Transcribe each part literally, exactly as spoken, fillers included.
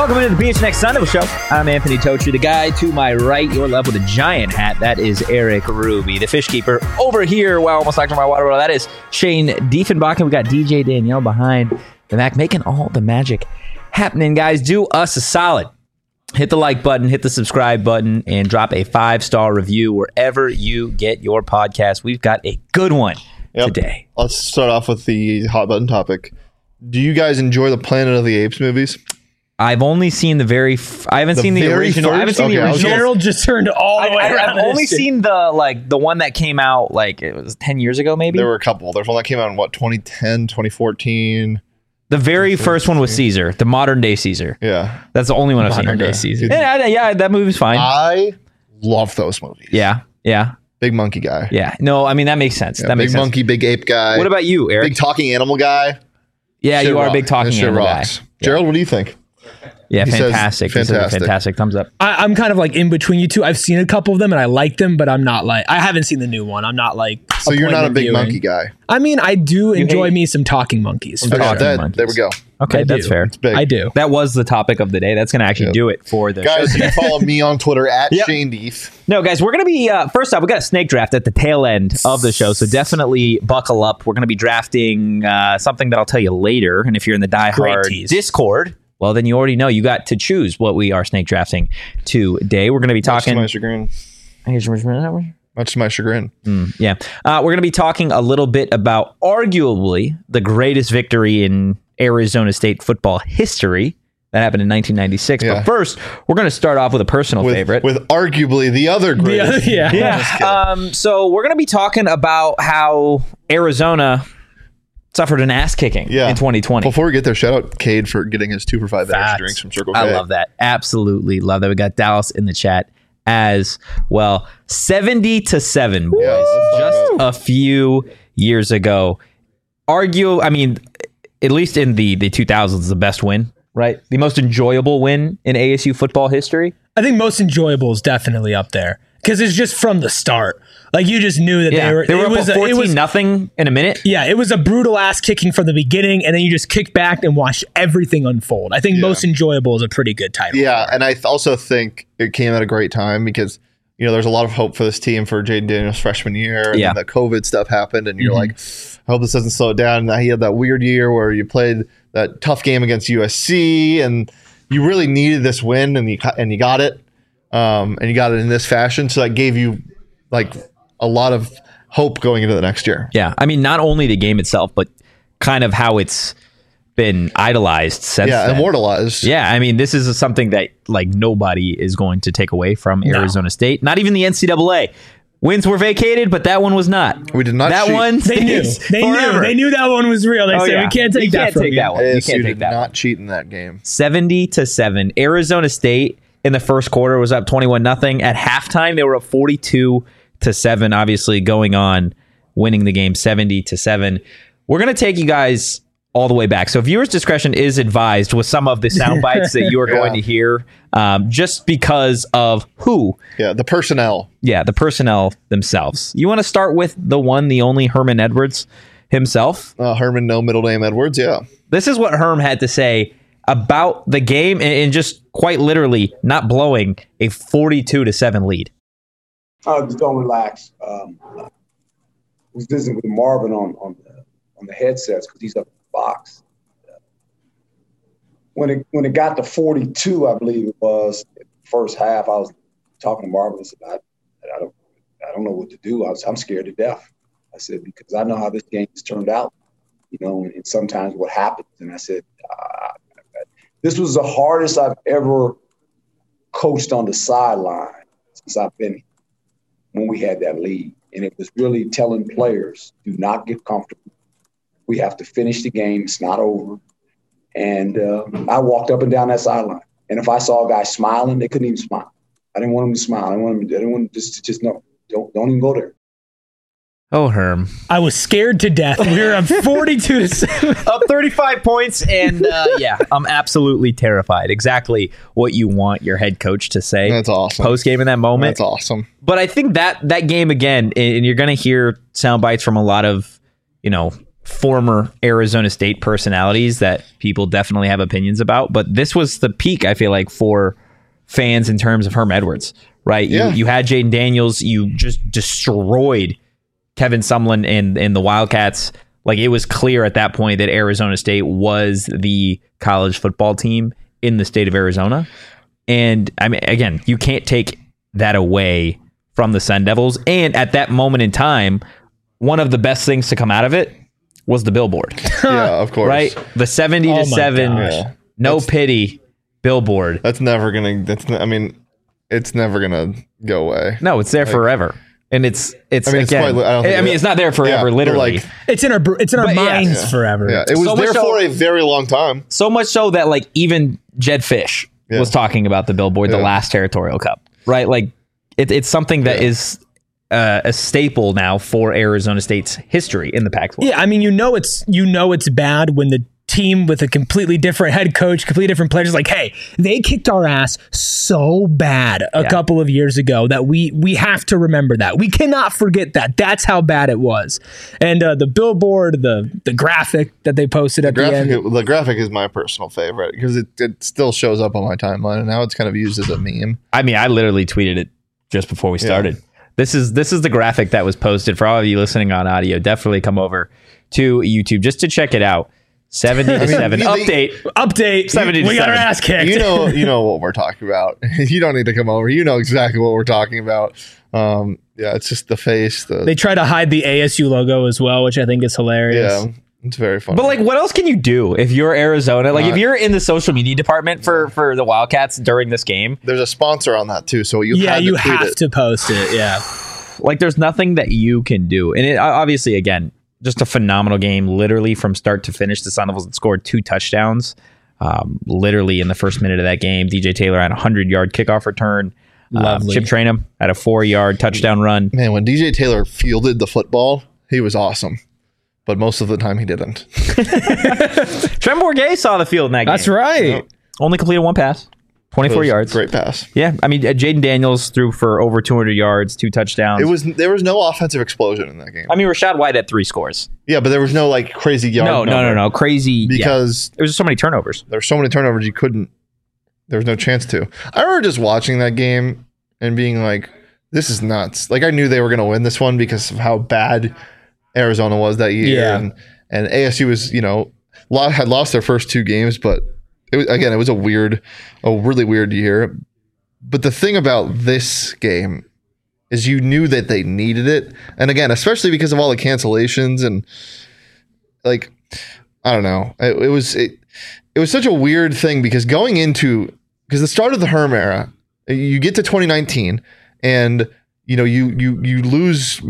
Welcome into the B H Next Sunday Show. I'm Anthony Totri. The guy to my right, your left with a giant hat, that is Eric Ruby. The fish keeper over here, wow, almost knocked my water bottle, that is Shane Diefenbach. We got D J Danielle behind the back, making all the magic happening. Guys, do us a solid. Hit the like button, hit the subscribe button, and drop a five-star review wherever you get your podcast. We've got a good one yep. today. Let's start off with the hot button topic. Do you guys enjoy the Planet of the Apes movies? I've only seen the very. F- I haven't The seen the very original. first? I haven't seen Okay, the I was original. Gerald just turned all the I, way I, around. I've only seen the like the one that came out like it was ten years ago, maybe. There were a couple. There's one that came out in what twenty ten, twenty fourteen. The very first one was Caesar, the modern day Caesar. Yeah, That's the only one I've seen. Modern day Caesar. Yeah, yeah, yeah, that movie's fine. I love those movies. yeah, yeah, Big monkey guy. yeah. No, I mean that makes sense. Yeah, that big makes sense. monkey, big ape guy. What about you, Eric? big talking animal guy? yeah, Shit you are a rock. big talking That shit animal rocks. guy. Gerald, what do you think? Yeah, He says fantastic. He says fantastic. fantastic. Thumbs up. I, I'm kind of like in between you two. I've seen a couple of them and I like them, but I'm not like I haven't seen the new one. I'm not like. So you're not a appointment big viewing. monkey guy. I mean, I do enjoy hate- me some talking monkeys. for Okay, talking sure. that- monkeys. there we go. Okay, I that's do. fair. It's big. I do. That was the topic of the day. That's going to actually Yep. do it for the Guys, show. you can follow me on Twitter at Yep. Shane Deef. No, guys, we're going to be, uh, first off, we got a snake draft at the tail end of the show, so definitely buckle up. We're going to be drafting uh, something that I'll tell you later, and if you're in the Die Great Hard tease. Discord, well, then you already know you got to choose what we are snake drafting today. We're going to be Much to talking... my chagrin. Much to my chagrin. Yeah. Uh, we're going to be talking a little bit about arguably the greatest victory in Arizona State football history. That happened in nineteen ninety-six. Yeah. But first, we're going to start off with a personal With, favorite. with arguably the other The greatest. other- yeah. Yeah. Just kidding. Um, so we're going to be talking about how Arizona suffered an ass kicking Yeah. in twenty twenty. Before we get there, shout out Cade for getting his two for five Facts. extra drinks from Circle K. I love that. Absolutely love that. We got Dallas in the chat as well. seventy to seven, boys. Yeah, let's talk Just about a few years ago. Argue, I mean, at least in the, the two thousands, the best win, right? The most enjoyable win in A S U football history. I think most enjoyable is definitely up there because it's just from the start. Like you just knew that Yeah, they were. they were it up was at a- it was fourteen nothing in a minute. Yeah, it was a brutal ass kicking from the beginning, and then you just kick back and watch everything unfold. I think Yeah. most enjoyable is a pretty good title. Yeah, and I th- also think it came at a great time because you know there's a lot of hope for this team for Jaden Daniels' freshman year. And Yeah. then the COVID stuff happened, and you're Mhm. like, I hope this doesn't slow it down. And he had that weird year where you played that tough game against U S C, and you really needed this win, and you ca- and you got it, um, and you got it in this fashion. So that gave you like a lot of hope going into the next year. Yeah, I mean, not only the game itself, but kind of how it's been idolized since Yeah, then. immortalized. Yeah, I mean, this is something that like nobody is going to take away from No. Arizona State. Not even the N C double A. Wins were vacated, but that one was not. We did not That cheat. one They knew. stays They forever. knew. They knew that one was real. They Oh, said yeah. we can't take You that can't from take you. that one. You A S U can't did take that not one. cheat in that game. seventy to seven. Arizona State in the first quarter was up twenty-one nothing. At halftime, they were up forty-two to seven. Obviously, going on, winning the game seventy to seven. We're gonna take you guys all the way back. So viewers' discretion is advised with some of the sound bites that you are Yeah. going to hear, um, just because of who. Yeah, the personnel. Yeah, the personnel themselves. You want to start with the one, the only Herman Edwards himself. Uh, Herman, no middle name Edwards. Yeah. This is what Herm had to say about the game and, and just quite literally not blowing a forty-two to seven lead. Oh, just don't relax. Um, I was visiting with Marvin on on the, on the headsets because he's up in the box. When it when it got to forty-two, I believe it was first half. I was talking to Marvin. I said, I, I don't I don't know what to do. I was I'm scared to death. I said because I know how this game has turned out, you know, and, and sometimes what happens. And I said, uh, this was the hardest I've ever coached on the sideline since I've been here. When we had that lead. And it was really telling players, do not get comfortable. We have to finish the game. It's not over. And uh, I walked up and down that sideline. And if I saw a guy smiling, they couldn't even smile. I didn't want them to smile. I didn't want them to, I didn't want them just, just no, don't, don't even go there. Oh, Herm. I was scared to death. We were up forty-two to seven. Up thirty-five points, and uh, yeah, I'm absolutely terrified. Exactly what you want your head coach to say That's awesome. post game in that moment. That's awesome. But I think that that game again, and you're going to hear sound bites from a lot of, you know, former Arizona State personalities that people definitely have opinions about. But this was the peak, I feel like, for fans in terms of Herm Edwards, right? Yeah. You, you had Jaden Daniels. You just destroyed Kevin Sumlin and, and the Wildcats. Like, it was clear at that point that Arizona State was the college football team in the state of Arizona. And, I mean, again, you can't take that away from the Sun Devils. And at that moment in time, one of the best things to come out of it was the billboard. Yeah, of course. Right? The seventy Oh to my seven, gosh. no That's- pity billboard. That's never gonna. That's. Not, I mean, it's never gonna go away. No, it's there forever. And it's, it's, I mean, it's again, probably- I don't think I mean, it- it's not there forever, Yeah, but literally. like- It's in our br- it's in our But yeah. minds Yeah. forever. Yeah, it was So much there so- for a very long time. So much so that, like, even Jed Fish Yeah. was talking about the billboard, the Yeah. last Territorial Cup, right? Like, it, it's something that Yeah. is uh, a staple now for Arizona State's history in the Pac twelve. Yeah, I mean, you know it's you know it's bad when the team with a completely different head coach, completely different players is like, hey, they kicked our ass so bad a Yeah. couple of years ago that we we have to remember that. We cannot forget that. That's how bad it was. And uh, the billboard, the the graphic that they posted at the, Graphic, end. the graphic is my personal favorite because it, it still shows up on my timeline, and now it's kind of used as a meme. I mean, I literally tweeted it just before we started. This is this is the graphic that was posted for all of you listening on audio. Definitely come over to YouTube just to check it out. seventy to seven you- update. Update. seventy to we got our seven. ass kicked. You know, you know what we're talking about. You don't need to come over. You know exactly what we're talking about. Um, yeah, it's just the face. The They try to hide the A S U logo as well, which I think is hilarious. yeah, it's very funny. But like, what else can you do if you're Arizona? Like, if Not- you're in the social media department for for the Wildcats during this game, there's a sponsor on that too, so you Yeah, had you to tweet have it. to post it. Yeah. like, there's nothing that you can do. And it obviously, again, just a phenomenal game, literally from start to finish. The Sun Devils had scored two touchdowns, um, literally in the first minute of that game. D J Taylor had a hundred yard kickoff return. Um, Lovely. Chip Trainum had a four yard touchdown run. Man, when D J Taylor fielded the football, he was awesome. But most of the time he didn't. Trent Bourget saw the field in that game. That's right. Only completed one pass, twenty-four It was a yards. Great pass. Yeah, I mean, uh, Jaden Daniels threw for over two hundred yards, two touchdowns. It was there was no offensive explosion in that game. I mean, Rashad White had three scores. Yeah, but there was no like crazy yard. No, no, no, number no, crazy. yeah. Because There was just so many turnovers. there's so many turnovers you couldn't. There was no chance to. I remember just watching that game and being like, "This is nuts!" Like I knew they were going to win this one because of how bad Arizona was that year, Yeah. and and A S U was, you know, lo- had lost their first two games, but it was, again, it was a weird, a really weird year. But the thing about this game is you knew that they needed it, and again, especially because of all the cancellations and like, I don't know, it, it was it, it was such a weird thing because going into because the start of the Herm era, you get to twenty nineteen and you know you you you lose.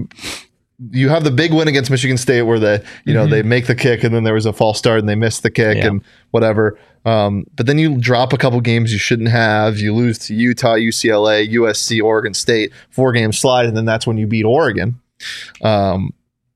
You have the big win against Michigan State where the you know Mhm. they make the kick and then there was a false start and they missed the kick Yeah. and whatever. Um, but then you drop a couple games you shouldn't have. You lose to Utah, U C L A, U S C, Oregon State, four game slide, and then that's when you beat Oregon. Um,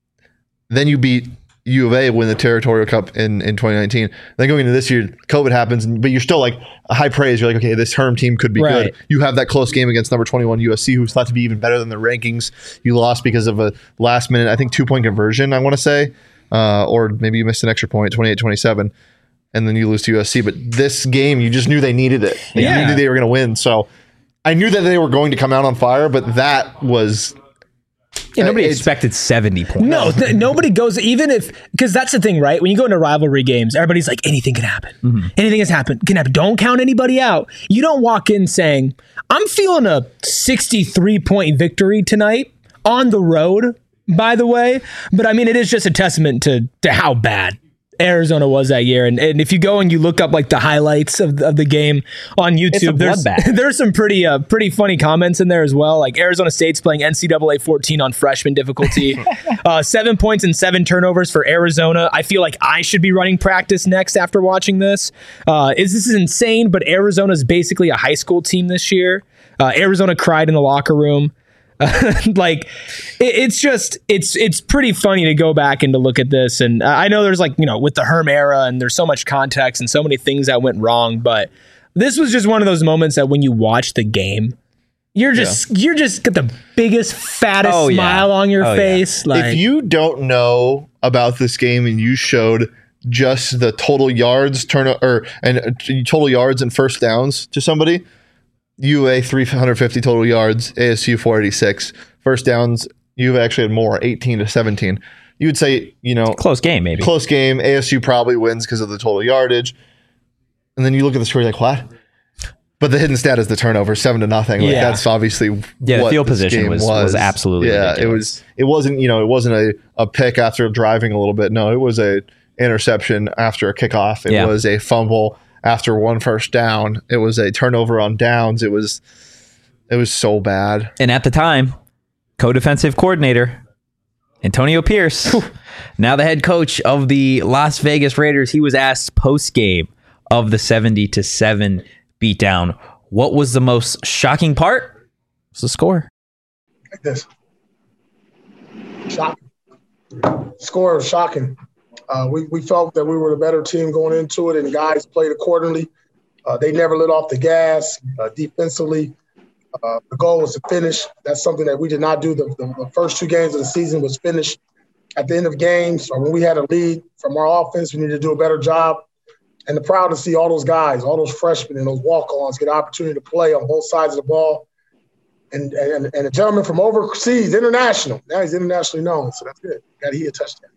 then you beat U of A, win the Territorial Cup in, in twenty nineteen. Then going into this year, COVID happens, and- but you're still like a high praise. You're like, okay, this Herm team could be Right. good. You have that close game against number twenty-one U S C, who's thought to be even better than the rankings. You lost because of a last minute, I think, two point conversion, I want to say, uh, or maybe you missed an extra point, twenty-eight twenty-seven, and then you lose to U S C. But this game, you just knew they needed it. And Yeah. You knew they were going to win. So I knew that they were going to come out on fire, but that was. Yeah, nobody It's- expected seventy points. No, th- nobody goes, even if, because that's the thing, right? When you go into rivalry games, everybody's like, anything can happen. Mm-hmm. Anything has happened, can happen. Don't count anybody out. You don't walk in saying, I'm feeling a sixty-three point victory tonight on the road, by the way. But I mean, it is just a testament to, to how bad Arizona was that year. And, and if you go and you look up like the highlights of, of the game on YouTube, a there's, bloodbath. there's some pretty uh, pretty funny comments in there as well. Like Arizona State's playing N C double A fourteen on freshman difficulty. uh, seven points and seven turnovers for Arizona. I feel like I should be running practice next after watching this. Uh, is this is insane, but Arizona's basically a high school team this year. Uh, Arizona cried in the locker room. like it, it's just it's it's pretty funny to go back and to look at this, and I know there's like, you know, with the Herm era and there's so much context and so many things that went wrong, but this was just one of those moments that when you watch the game, you're just you're just got the biggest fattest Oh, yeah. smile on your Oh, yeah. face. Like If you don't know about this game and you showed just the total yards turn or and uh, total yards and first downs to somebody, U A three hundred fifty total yards, A S U four eighty-six. First downs, U A actually had more, eighteen to seventeen. You would say, you know, Close game, maybe. close game. A S U probably wins because of the total yardage. And then you look at the score, you're like, what? But the hidden stat is the turnover, seven to nothing. Like, Yeah. that's obviously Yeah, the what field this position game was- was absolutely yeah. ridiculous. It was. It wasn't. You know, it wasn't a, a pick after driving a little bit. No, it was a interception after a kickoff. It Yeah. was a fumble after one first down. It was a turnover on downs. It was. It was so bad. And at the time, co-defensive coordinator Antonio Pierce, now the head coach of the Las Vegas Raiders, he was asked post-game of the seventy to seven beatdown, what was the most shocking part? It was the score. Like this. Shocking. Score was shocking. Uh, we, we felt that we were the better team going into it, and guys played accordingly. Uh, they never let off the gas uh, defensively. Uh, the goal was to finish. That's something that we did not do. The, the, the first two games of the season was finish at the end of games, or when we had a lead from our offense, we needed to do a better job. And the proud to see all those guys, all those freshmen and those walk-ons get an opportunity to play on both sides of the ball. And, and and a gentleman from overseas, international. Now he's internationally known, so that's good. Got to hit a touchdown.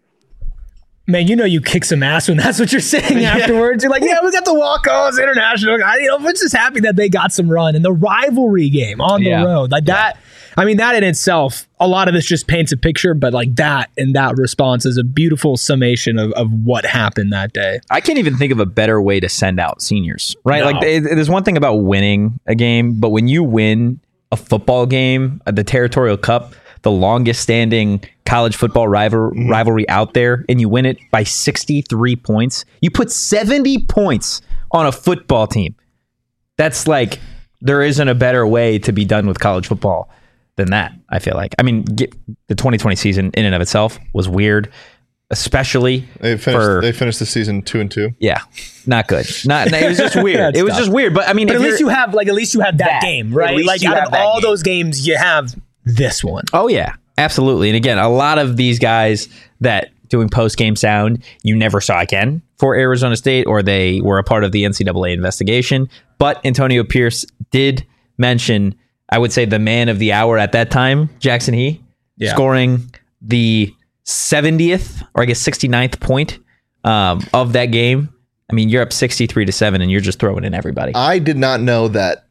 Man, you know you kick some ass when that's what you're saying afterwards. You're like, yeah, we got the walk-ons, international guy. You know, we're just happy that they got some run. And the rivalry game on the Yeah. road, like that, I mean, that in itself, a lot of this just paints a picture, but like that and that response is a beautiful summation of, of what happened that day. I can't even think of a better way to send out seniors, right? No. Like, they, there's one thing about winning a game, but when you win a football game, uh, the Territorial Cup, the longest standing college football rival, rivalry out there, and you win it by sixty-three points, you put seventy points on a football team. That's like, there isn't a better way to be done with college football than that, I feel like. I mean, get, the twenty twenty season in and of itself was weird, especially They finished. for... they finished the season two and two. Yeah, not good. Not. It was just weird. That's It was tough. just weird. But I mean, But if at least you're- you have, like, at least you have that, That. game, At right? least Like, you out have of that all game. those games, you have this one. Oh yeah, absolutely. And again, a lot of these guys that doing post game sound you never saw again for Arizona State, or they were a part of the N C double A investigation. But Antonio Pierce did mention, I would say, the man of the hour at that time, Jackson He, Yeah. scoring the seventieth or I guess sixty-ninth point um, of that game. I mean, you're up sixty-three to seven, and you're just throwing in everybody. I did not know that.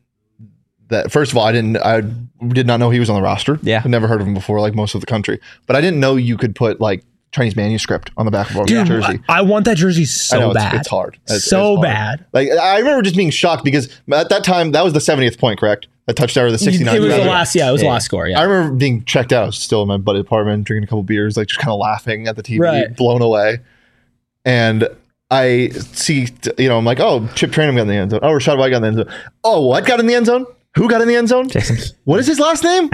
That first of all, I didn't. I did not know he was on the roster. Yeah. I'd never heard of him before, like most of the country. But I didn't know you could put like Chinese manuscript on the back of a Dude, jersey. I, I want that jersey I so know, it's, bad. it's hard. It's, so it's hard. bad. Like I remember just being shocked because at that time that was the seventieth point, correct? That touchdown or the sixty-ninth. It was the rather. last, yeah, it was Yeah. the last score, I yeah. remember being checked out. I was still in my buddy apartment, drinking a couple beers, like just kind of laughing at the T V, Right. blown away. And I see, you know, I'm like, oh, Chip Trainum got in the end zone. Oh, Rashad White got in the end zone. Oh, what got in the end zone? Who got in the end zone? Jackson. What is his last name?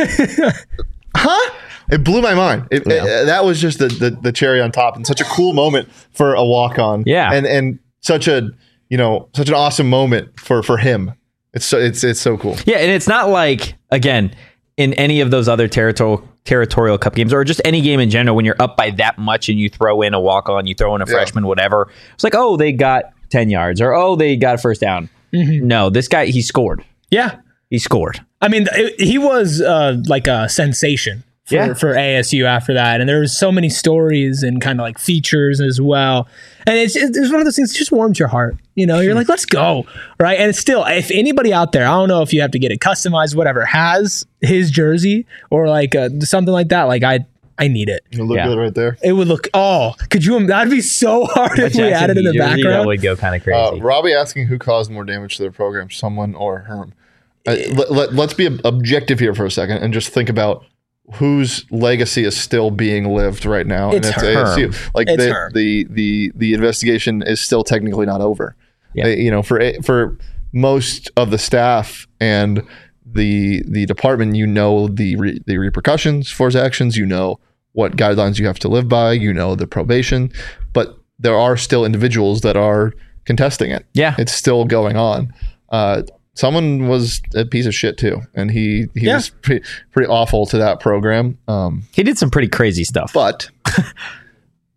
Huh? It blew my mind. It, Yeah. it- that was just the, the the cherry on top, and such a cool moment for a walk on. Yeah. and and such a you know such an awesome moment for for him. It's so it's it's so cool. Yeah, and it's not like, again, in any of those other territorial territorial cup games, or just any game in general, when you're up by that much and you throw in a walk on, you throw in a Yeah. freshman, whatever. It's like, oh, they got ten yards, or oh, they got a first down. No, this guy, he scored. Yeah. He scored. I mean, it, he was uh, like a sensation for, Yeah. for A S U after that. And there was so many stories and kind of like features as well. And it's, it's one of those things that just warms your heart. You know, you're like, let's go. Right. And it's still, if anybody out there, I don't know if you have to get it customized, whatever, has his jersey or like uh, something like that, like I, I need it. You look Yeah. good right there. It would look, oh, could you, that'd be so hard if we had it in the That background. would go kind of Uh, crazy. Robbie asking who caused more damage to their program, someone or Herm. Uh, let, let, let's be ob- objective here for a second and just think about whose legacy is still being lived right now. It's and Herm. A S U. Like It's the, Herm. the the the investigation is still technically not over. Yeah. Uh, you know, for a- for most of the staff and the the department, you know the re, the repercussions for his actions. You know what guidelines you have to live by. You know the probation, but there are still individuals that are contesting it. Yeah. It's still going on. Uh, someone was a piece of shit too, and he he Yeah. was pretty, pretty awful to that program. Um, He did some pretty crazy stuff. but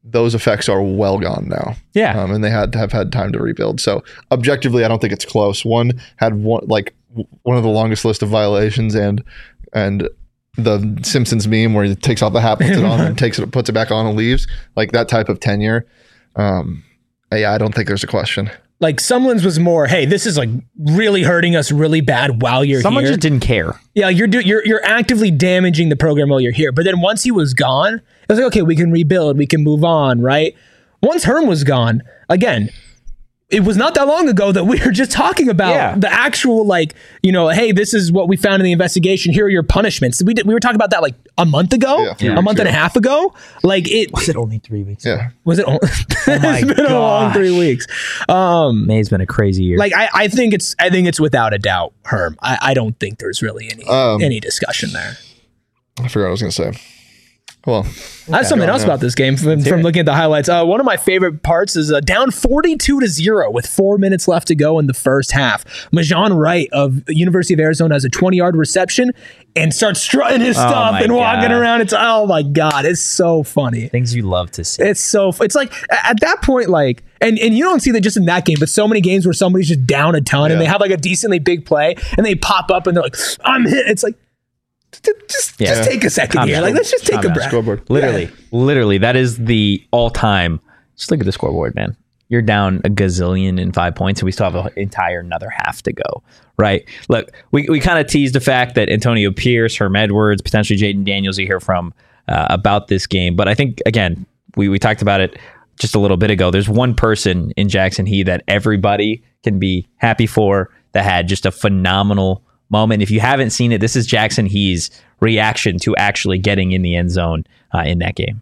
those effects are well gone now. Yeah. Um, and they had to have had time to rebuild. So objectively, I don't think it's close. One had one like one of the longest list of violations, and and the Simpsons meme where he takes off the hat, puts it on, and takes it, puts it back on, and leaves. Like that type of tenure. Um, yeah, I don't think there's a question. Like Sumlin's was more, hey, this is like really hurting us really bad while you're Someone here. just didn't care. Yeah, you're do, you're you're actively damaging the program while you're here. But then once he was gone, it was like, okay, we can rebuild, we can move on, right? Once Herm was gone, again, it was not that long ago that we were just talking about Yeah. the actual, like, you know, hey, this is what we found in the investigation. Here are your punishments. We did, we were talking about that like a month ago, Yeah, a few a weeks month and a ago. half ago. Like it Was it only three weeks? Yeah. was it. Only, my it's been a long gosh. three weeks. Um, May's been a crazy year. like I, I think it's I think it's without a doubt Herm. I, I don't think there's really any Um, any discussion there. I forgot what I was going to say. Well, I have something go on, else yeah. about this game from, from looking at the highlights. Uh, one of my favorite parts is uh, down forty-two to zero with four minutes left to go in the first half. Majan Wright of University of Arizona has a twenty-yard reception and starts strutting his Oh stuff my and walking God. around. It's oh my god, it's so funny. Things you love to see. It's so it's like a- at that point, like, and and you don't see that just in that game, but so many games where somebody's just down a ton and Yeah. they have like a decently big play and they pop up and they're like, I'm hit. It's like just Yeah. just take a second Calm here. down. Like let's just take Calm a down. breath. scoreboard. Literally, literally, that is the all-time. Just look at the scoreboard, man. You're down a gazillion in five points, and we still have an entire another half to go. Right? Look, we, we kind of teased the fact that Antonio Pierce, Herm Edwards, potentially Jaden Daniels, you hear from uh, about this game. But I think again, we we talked about it just a little bit ago. There's one person in Jackson He that everybody can be happy for that had just a phenomenal moment. If you haven't seen it, this is Jackson He's reaction to actually getting in the end zone uh, in that game.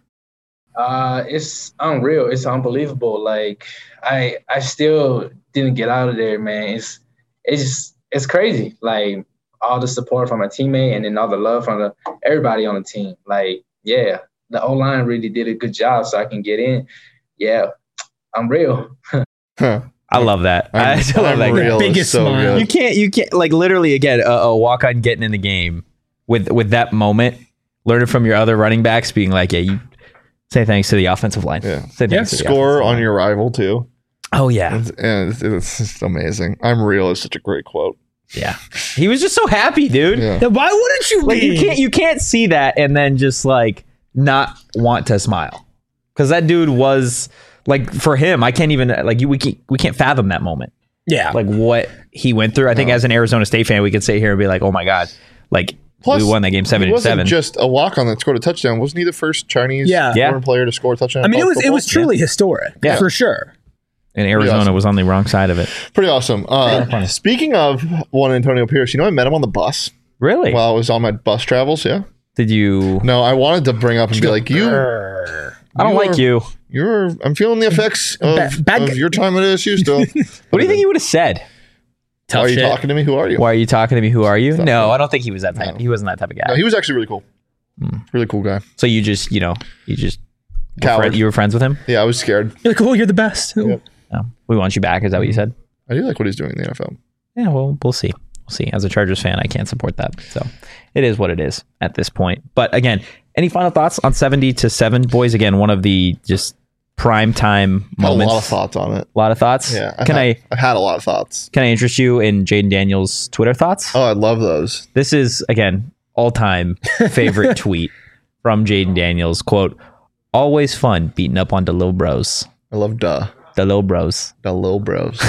Uh, it's unreal. It's unbelievable. Like I, I still didn't get out of there, man. It's, it's, just, it's crazy. Like all the support from my teammate and then all the love from the everybody on the team. Like, yeah, the O line really did a good job, so I can get in. Yeah, I'm real. Huh. I love that. I I'm, still love I'm that. game. real. Biggest It's so smile. good. You can't, you can't, like literally again, a, a walk on getting in the game with with that moment, learning from your other running backs, being like, yeah, you say thanks to the offensive line. Yeah. Say thanks Yeah. to the Score offensive on line. your rival too. Oh yeah, It's, and it's, it's just amazing. I'm real is such a great quote. yeah. He was just so happy, dude. Yeah. Then why wouldn't you Like be? you can't, you can't see that and then just like not want to smile because that dude was like for him. I can't even like you. We can't, we can't fathom that moment. Yeah. Like what he went through. I think as an Arizona State fan, we could sit here and be like, oh my god, like. Plus, we won that game seven He to wasn't seven. just a walk on that scored a touchdown. Wasn't he the first Chinese Yeah. Yeah. foreign player to score a touchdown? I mean, in it was college it was football? truly historic, Yeah. for sure. And Arizona awesome. was on the wrong side of it. Pretty awesome. Uh, speaking of one Antonio Pierce, you know, I met him on the bus Really? while I was on my bus travels. Yeah. Did you? No, I wanted to bring up and be like, you, I don't you like are- you. you're. I'm feeling the effects of, Ba- bad of guy. your time at A S U still. What do you think he would have said? Tough Why are you shit. talking to me? Who are you? Why are you talking to me? Who are you? Stop No, it. I don't think he was that type. No. He wasn't that type of guy. No, he was actually really cool. Hmm. Really cool guy. So you just, you know, you just were Coward. friend- you were friends with him. Yeah, I was scared. You're like, oh, you're the best. Yep. No, we want you back. Is that what you said? I do like what he's doing in the N F L. Yeah. Well, we'll see. We'll see. As a Chargers fan, I can't support that. So it is what it is at this point. But again, any final thoughts on seventy to seven, boys? Again, one of the just prime time Had a moments. lot of thoughts on it. A lot of thoughts. Yeah. I've Can had, I I've had a lot of thoughts. can I interest you in Jaden Daniels' Twitter thoughts? Oh, I love those. This is, again, all-time favorite tweet from Jaden Daniels. Quote, always fun beating up on the little bros. I love duh. The little bros. The little bros.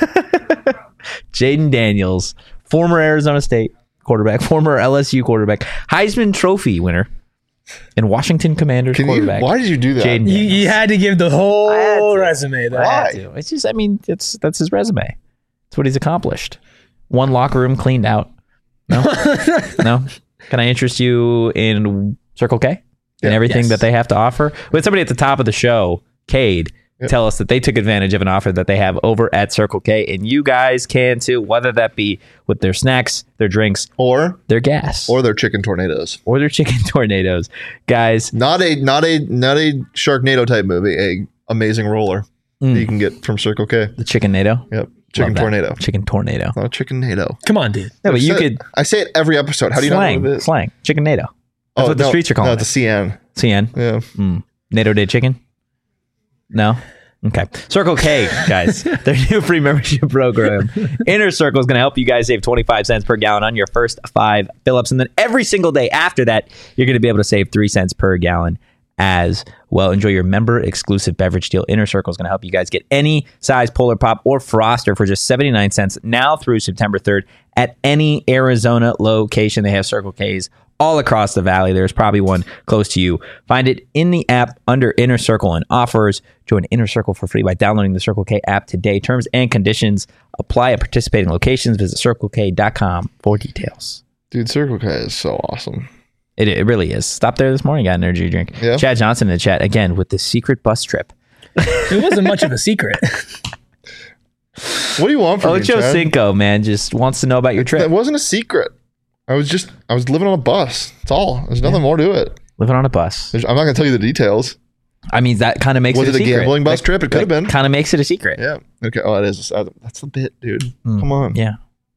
Jaden Daniels, former Arizona State quarterback, former L S U quarterback, Heisman Trophy winner, and Washington Commanders Can you? quarterback. Why did you do that? Jaden You, you had to give the I had whole to. resume there. Why? I had to. It's just, I mean, it's that's his resume. It's what he's accomplished. One locker room cleaned out. No? No? Can I interest you in Circle K and Yeah. everything Yes. that they have to offer? We had somebody at the top of the show, Cade, Yep. tell us that they took advantage of an offer that they have over at Circle K, and you guys can too, whether that be with their snacks, their drinks, Or their gas, or their chicken tornadoes. or their chicken tornadoes. Guys, Not a not a not a Sharknado type movie. A amazing roller Mm. that you can get from Circle K. the chicken nado. Yep. Chicken Love that. tornado. Chicken tornado. Not a chicken nado. Come on, dude. No, but you I could I say it every episode. How do you slang, know what it is? slang, chicken nado. That's what the no, streets are calling no, it. it's a C N. C N. Yeah. Mm. NATO Day chicken. No? Okay. Circle K, guys, their new free membership program. Inner Circle is going to help you guys save twenty-five cents per gallon on your first five fill-ups. And then every single day after that, you're going to be able to save three cents per gallon as well. Enjoy your member-exclusive beverage deal. Inner Circle is going to help you guys get any size Polar Pop or Froster for just seventy-nine cents now through September third at any Arizona location. They have Circle K's all across the valley. There's probably one close to you. Find it in the app under Inner Circle and offers. Join Inner Circle for free by downloading the Circle K app today. Terms and conditions apply at participating locations. Visit circle k dot com for details. Dude, Circle K is so awesome. It, it really is. Stopped there this morning, got an energy drink. Yeah. Chad Johnson in the chat again with the secret bus trip. It wasn't much of a secret. What do you want from me, Ocho Chad? Cinco, man, just wants to know about your That trip. wasn't a secret. I was just, I was living on a bus. That's all. There's nothing more to it. Living on a bus. There's, I'm not going to tell you the details. I mean, that kind of makes Was it it a a secret. gambling bus trip? It could have been. Kind of makes it a secret. Yeah. Okay. Oh, it is. Uh, That's the bit, dude. Mm. Come on. Yeah.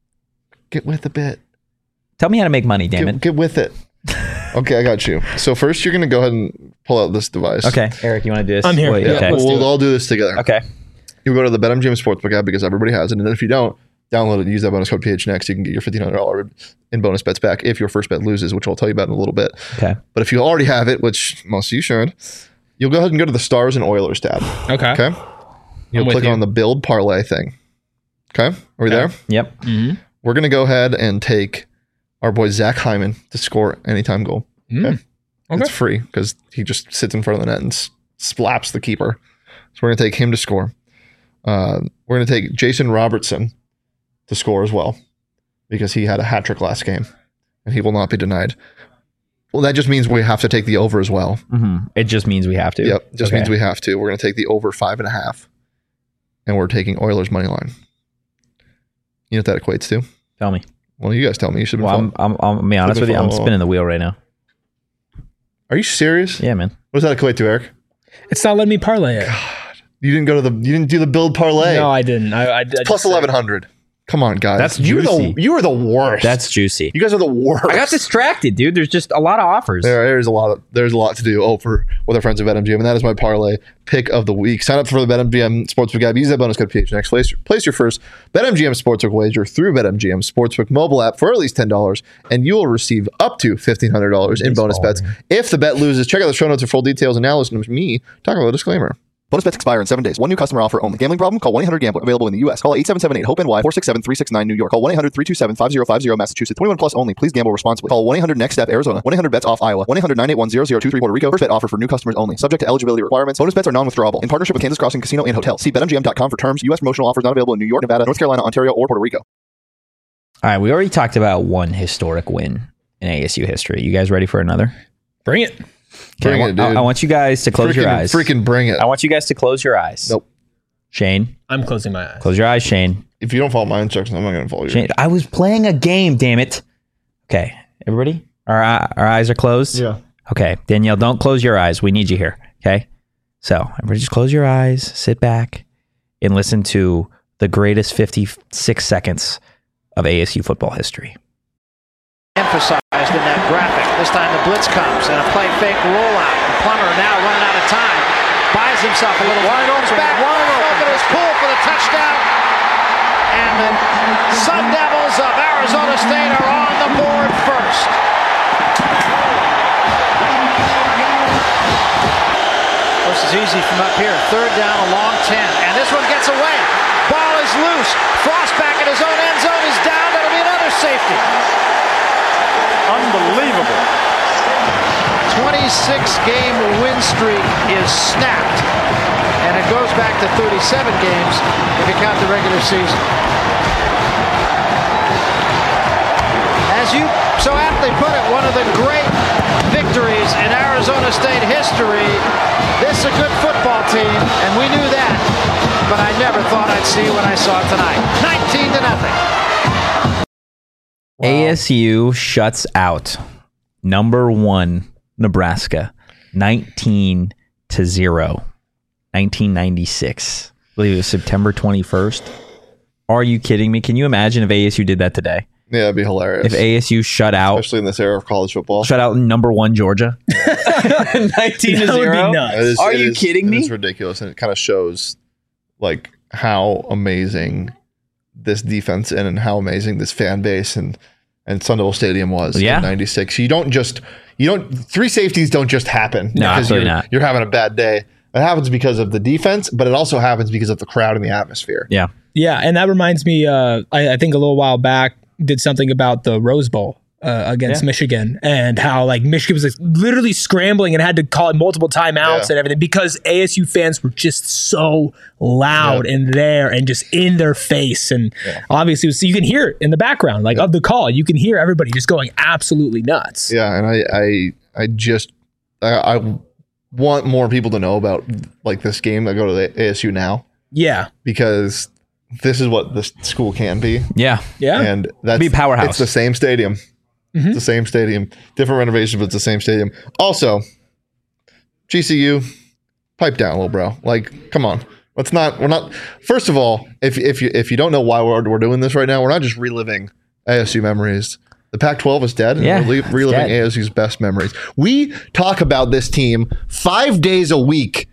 Get with the bit. Tell me how to make money, damn Get, it. get with it. Okay, I got you. So first, you're going to go ahead and pull out this device. Okay, Eric, you want to do this? I'm here. Wait, Yeah, okay. We'll, let's do we'll it. all do this together. Okay. You go to the BetMGM Sportsbook app because everybody has it. And then if you don't, download it and use that bonus code P H Next. You can get your fifteen hundred dollars in bonus bets back if your first bet loses, which I'll tell you about in a little bit. Okay. But if you already have it, which most of you should, you'll go ahead and go to the Stars and Oilers tab. Okay. Okay. You'll I'm with click you. on the build parlay thing. Okay. Are we Okay. there? Yep. Mm-hmm. We're going to go ahead and take our boy Zach Hyman to score anytime goal. Mm. Okay. It's free because he just sits in front of the net and s- slaps the keeper. So we're going to take him to score. Uh, we're going to take Jason Robertson to score as well because he had a hat trick last game and he will not be denied. Well, that just means we have to take the over as well. Mm-hmm. It just means we have to. Yep. Just Okay. means we have to. We're going to take the over five and a half and we're taking Oilers money line. You know what that equates to? Tell me. Well, you guys tell me. You should have Well, been I'm, following. I'm, I'm, be honest Should've with you. I'm followed. spinning the wheel right now. Are you serious? Yeah, man. What does that equate to, Eric? It's not letting me parlay it. You didn't go to the. You didn't do the build parlay. No, I didn't. I, I, I Plus just- eleven hundred. Come on, guys. That's you're juicy. the you are the worst. That's juicy. you guys are the worst. I got distracted, dude. There's just a lot of offers. There, there's a lot of there's a lot to do. Oh, for with our friends at BetMGM, and that is my parlay pick of the week. Sign up for the BetMGM Sportsbook app. Use that bonus code P H Next. Place, place your first BetMGM Sportsbook wager through BetMGM Sportsbook mobile app for at least ten dollars, and you will receive up to fifteen hundred dollars in bonus bets if the bet loses. Check out the show notes for full details. And now listen to me talk about a disclaimer. Bonus bets expire in seven days. One new customer offer only. Gambling problem? Call one eight hundred gambler. Available in the U S. Call eight seven seven eight hope N Y four six seven three six nine New York. Call one eight hundred three two seven five zero five zero Massachusetts. twenty-one plus only. Please gamble responsibly. Call one eight hundred next step Arizona. one eight hundred bets off Iowa. one eight hundred nine eight one zero zero two three Puerto Rico. First bet offer for new customers only. Subject to eligibility requirements. Bonus bets are non-withdrawable. In partnership with Kansas Crossing Casino and Hotel. See bet M G M dot com for terms. U S promotional offers not available in New York, Nevada, North Carolina, Ontario, or Puerto Rico. All right, we already talked about one historic win in A S U history. You guys ready for another? Bring it. Okay, Bring I, it, want, I- dude. I want you guys to close freaking, your eyes. Freaking bring it. I want you guys to close your eyes. Nope. Shane, I'm closing my eyes. close your eyes, Shane. If you don't follow my instructions, I'm not going to follow you. Shane, I was playing a game, damn it. Okay, everybody? Our, our eyes are closed? Yeah. Okay, Danielle, don't close your eyes. We need you here, okay? So, everybody just close your eyes, sit back, and listen to the greatest fifty-six seconds of A S U football history. Emphasized in that graphic. This time the blitz comes and a play fake rollout. Plummer now running out of time. Buys himself a little wide open. Back wide open is pulled for the touchdown. And the Sun Devils of Arizona State are on the board first. This is easy from up here. Third down, a long ten. And this one gets away. Ball is loose. Frost back in his own end zone is down. That'll be another safety. Unbelievable. twenty-six game win streak is snapped. And it goes back to thirty-seven games if you count the regular season. As you so aptly put it, one of the great victories in Arizona State history. This is a good football team, and we knew that. But I never thought I'd see when I saw it tonight. nineteen to nothing. A S U shuts out number one Nebraska, nineteen to zero, nineteen ninety-six. I believe it was September twenty-first. Are you kidding me? Can you imagine if A S U did that today? Yeah, it'd be hilarious. If A S U shut out, especially in this era of college football. shut out number one Georgia, nineteen to That would be zero. nuts. It is- Are it you is- kidding me? It's ridiculous, and it kind of shows like how amazing this defense and, and how amazing this fan base and and Sun Devil Stadium was Yeah. in ninety-six. You don't just you don't three safeties don't just happen No, because absolutely you're, not. you're having a bad day. It happens because of the defense, but it also happens because of the crowd and the atmosphere. Yeah, Yeah, and that reminds me. Uh, I, I think a little while back did something about the Rose Bowl uh, against Yeah. Michigan and how like Michigan was like, literally scrambling and had to call it multiple timeouts Yeah. and everything because A S U fans were just so loud Yeah. and there and just in their face and obviously so you can hear it in the background like of the call. You can hear everybody just going absolutely nuts. Yeah, and I I I just I, I want more people to know about like this game that go to the A S U now Yeah, because this is what this school can be. yeah. yeah. And that's Be a powerhouse. It's the same stadium. It's the same stadium. Different renovation, but it's the same stadium. Also, G C U, pipe down, little bro. Like, come on. Let's not. We're not. First of all, if if you if you don't know why we're we're doing this right now, we're not just reliving A S U memories. The Pac twelve is dead. And Yeah, we're it's re- reliving dead. A S U's best memories. We talk about this team five days a week.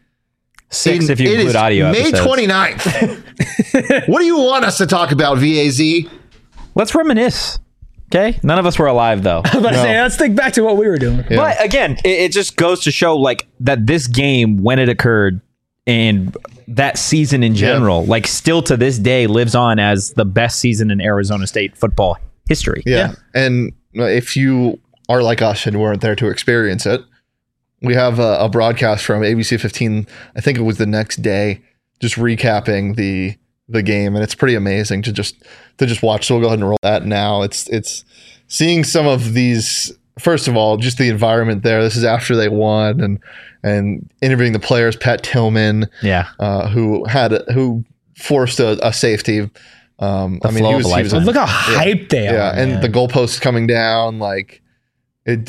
Six In- if you it include is audio May episodes. twenty-ninth. What do you want us to talk about, V A Z? Let's reminisce. Okay, none of us were alive though. I was about to say, let's think back to what we were doing. Yeah. But again, it, it just goes to show like that this game when it occurred and that season in general, like still to this day lives on as the best season in Arizona State football history. Yeah. And if you are like us and weren't there to experience it, we have a, a broadcast from A B C fifteen. I think it was the next day, just recapping the the game, and it's pretty amazing to just to just watch. So we'll go ahead and roll that now. It's it's seeing some of these. First of all, just the environment there. This is after they won, and and interviewing the players. Pat Tillman, Yeah. uh, who had a, who forced a, a safety. Um, I mean, flow he of was, a he was lifetime. Look how hyped they are. yeah, and man. the goalposts coming down, like it.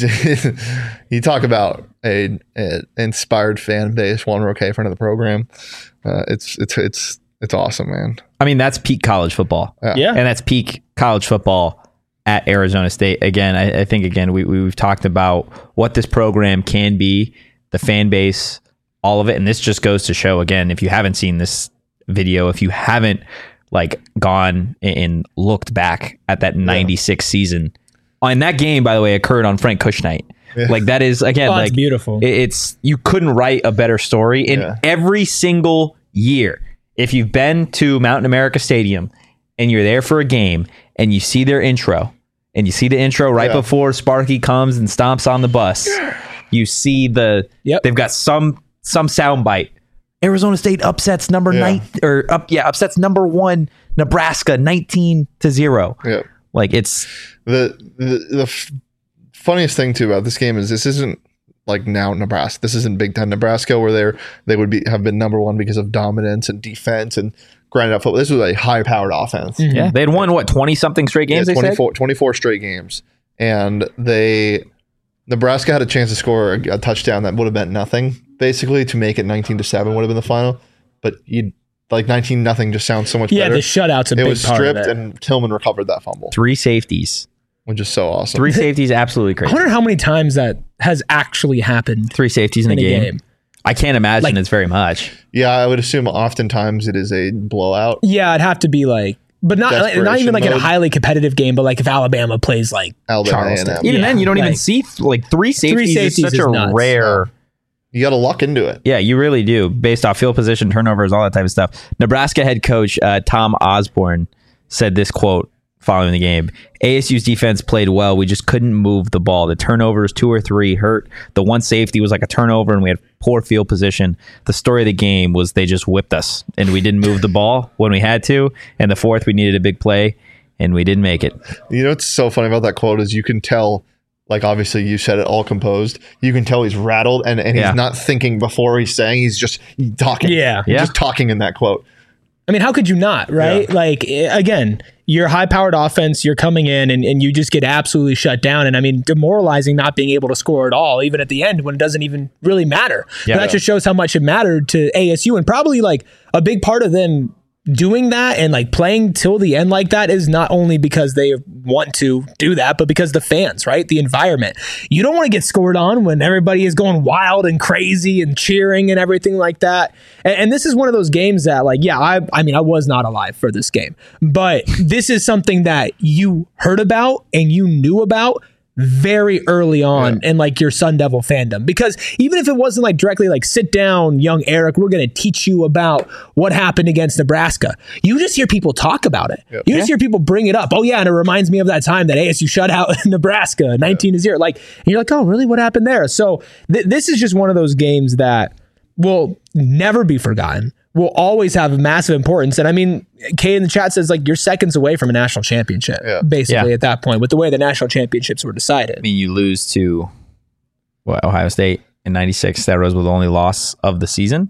You talk about a, a inspired fan base. Juan Roque, friend of the program. Uh, it's it's it's it's awesome, man. I mean, that's peak college football. Yeah. And that's peak college football at Arizona State. Again, I, I think, again, we, we've talked about what this program can be, the fan base, all of it. And this just goes to show, again, if you haven't seen this video, if you haven't like gone and looked back at that ninety-six season, and that game, by the way, occurred on Frank Kush night. Yeah. Like that is, again, Oh, like it's beautiful. it- it's, you couldn't write a better story in Yeah. every single year. If you've been to Mountain America Stadium and you're there for a game and you see their intro and you see the intro right Yeah. before Sparky comes and stomps on the bus, you see the, Yep. they've got some, some soundbite. Arizona State upsets number Yeah. nine or up. Yeah. Upsets number one, Nebraska, nineteen to zero. Yeah. Like it's, The the the f- funniest thing too about this game is this isn't like now Nebraska. This isn't Big Ten Nebraska where they're they would be have been number one because of dominance and defense and grinded out football. This was a high powered offense. yeah, they had won what, twenty something straight games. Yeah, they said? twenty-four, twenty-four straight games, and they Nebraska had a chance to score a, a touchdown that would have meant nothing basically to make it nineteen to seven would have been the final, but you like nineteen nothing just sounds so much yeah, better. the shutout's a It big was part stripped of it. and Tillman recovered that fumble, Three safeties. which is so awesome. Three safeties, absolutely I crazy. wonder how many times that has actually happened Three safeties in, in a a game. game. I can't imagine Like- it's very much. Yeah, I would assume oftentimes it is a blowout. Yeah, it'd have to be like, but not not even Desperation like in a mode. highly competitive game, but like if Alabama plays like Alabama Charleston. A and M. Even Yeah, then, you don't even like- see like three safeties, safeties is such is a nuts. rare. You got to luck into it. Yeah, you really do, based off field position, turnovers, all that type of stuff. Nebraska head coach uh, Tom Osborne said this quote following the game: "A S U's defense played well. We just couldn't move the ball. The turnovers, two or three, hurt. The one safety was like a turnover, and we had poor field position. The story of the game was they just whipped us, and we didn't move the ball when we had to. And the fourth, we needed a big play, and we didn't make it." You know what's so funny about that quote is you can tell, like obviously you said it all composed. You can tell he's rattled and, and he's Yeah. not thinking before he's saying. He's just talking. Yeah. He's Yeah. just talking in that quote. I mean, how could you not, right? Yeah. Like, eh, again, you're high powered offense, you're coming in and, and you just get absolutely shut down. And I mean, demoralizing not being able to score at all, even at the end when it doesn't even really matter. Yeah. But that just shows how much it mattered to A S U and probably like a big part of them doing that and like playing till the end like that is not only because they want to do that, but because the fans, right? The environment. You don't want to get scored on when everybody is going wild and crazy and cheering and everything like that. And, and this is one of those games that like, yeah, I, I mean, I was not alive for this game, but this is something that you heard about and you knew about very early on yeah. in like your Sun Devil fandom, because even if it wasn't like directly like sit down young Eric, we're going to teach you about what happened against Nebraska, you just hear people talk about it. Yep. You just yeah. hear people bring it up. Oh yeah, and it reminds me of that time that A S U shut out Nebraska nineteen to zero. Like, and you're like, oh really, what happened there? So th- this is just one of those games that will never be forgotten, will always have massive importance. And I mean, Kay in the chat says like you're seconds away from a national championship, yeah. basically yeah. at that point, with the way the national championships were decided. I mean, you lose to what, Ohio State in ninety-six. That was the only loss of the season.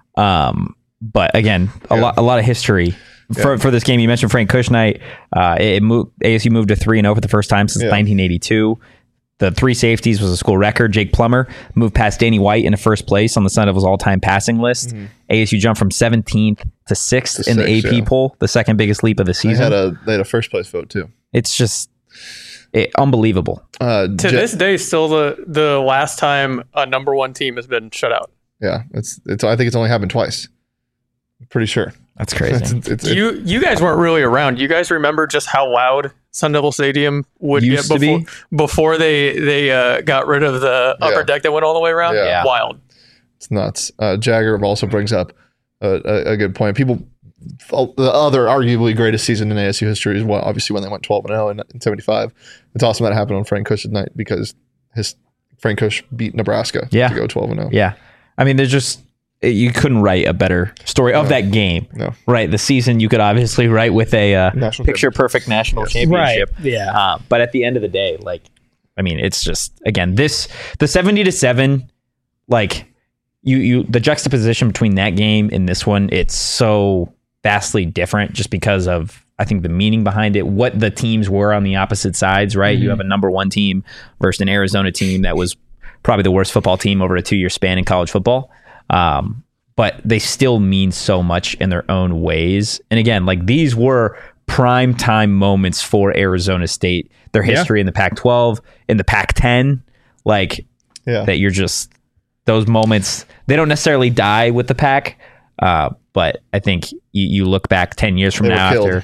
Um, but again, a yeah. lot, a lot of history for, yeah. for this game. You mentioned Frank Kushnight. Uh, it moved, A S U moved to three and zero for the first time since yeah. nineteen eighty-two. The three safeties was a school record. Jake Plummer moved past Danny White into first place on the Sun Devils all-time passing list. Mm-hmm. A S U jumped from seventeenth to sixth to in six, the A P yeah. poll, the second biggest leap of the season. They had a they had a first place vote too. It's just it, unbelievable. Uh, to J- this day, still the the last time a number one team has been shut out. Yeah, it's it's. I think it's only happened twice. I'm pretty sure. That's crazy. it's, it's, it's, you you guys weren't really around. You guys remember just how loud Sun Devil Stadium would get before be. before they they uh, got rid of the upper yeah. deck that went all the way around? Yeah. Yeah. Wild. It's nuts. Uh, Jagger also brings up a, a, a good point. People, the other arguably greatest season in A S U history is well, obviously when they went twelve and oh in, in seventy-five. It's awesome that happened on Frank Kush's night because his Frank Kush beat Nebraska yeah. to go twelve and oh. Yeah. I mean, there's just, you couldn't write a better story of no. that game. No. Right. The season you could obviously write with a uh, picture perfect national yes. championship. Right. Yeah. Uh, but at the end of the day, like, I mean, it's just, again, this, the seventy to seven, like, you, you, the juxtaposition between that game and this one, it's so vastly different just because of, I think, the meaning behind it, what the teams were on the opposite sides, right? Mm-hmm. You have a number one team versus an Arizona team that was probably the worst football team over a two-year span in college football. Um, but they still mean so much in their own ways. And again, like these were prime time moments for Arizona State, their history yeah. in the Pac twelve, in the Pac ten, like yeah. that you're just, those moments, they don't necessarily die with the Pac. Uh, but I think you, you look back ten years from they now after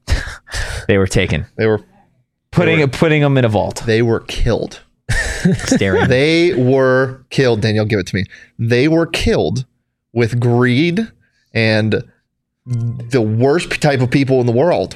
they were taken, they were putting, they were, putting them in a vault. They were killed. Staring. They were killed. Danielle, give it to me. They were killed with greed and the worst type of people in the world.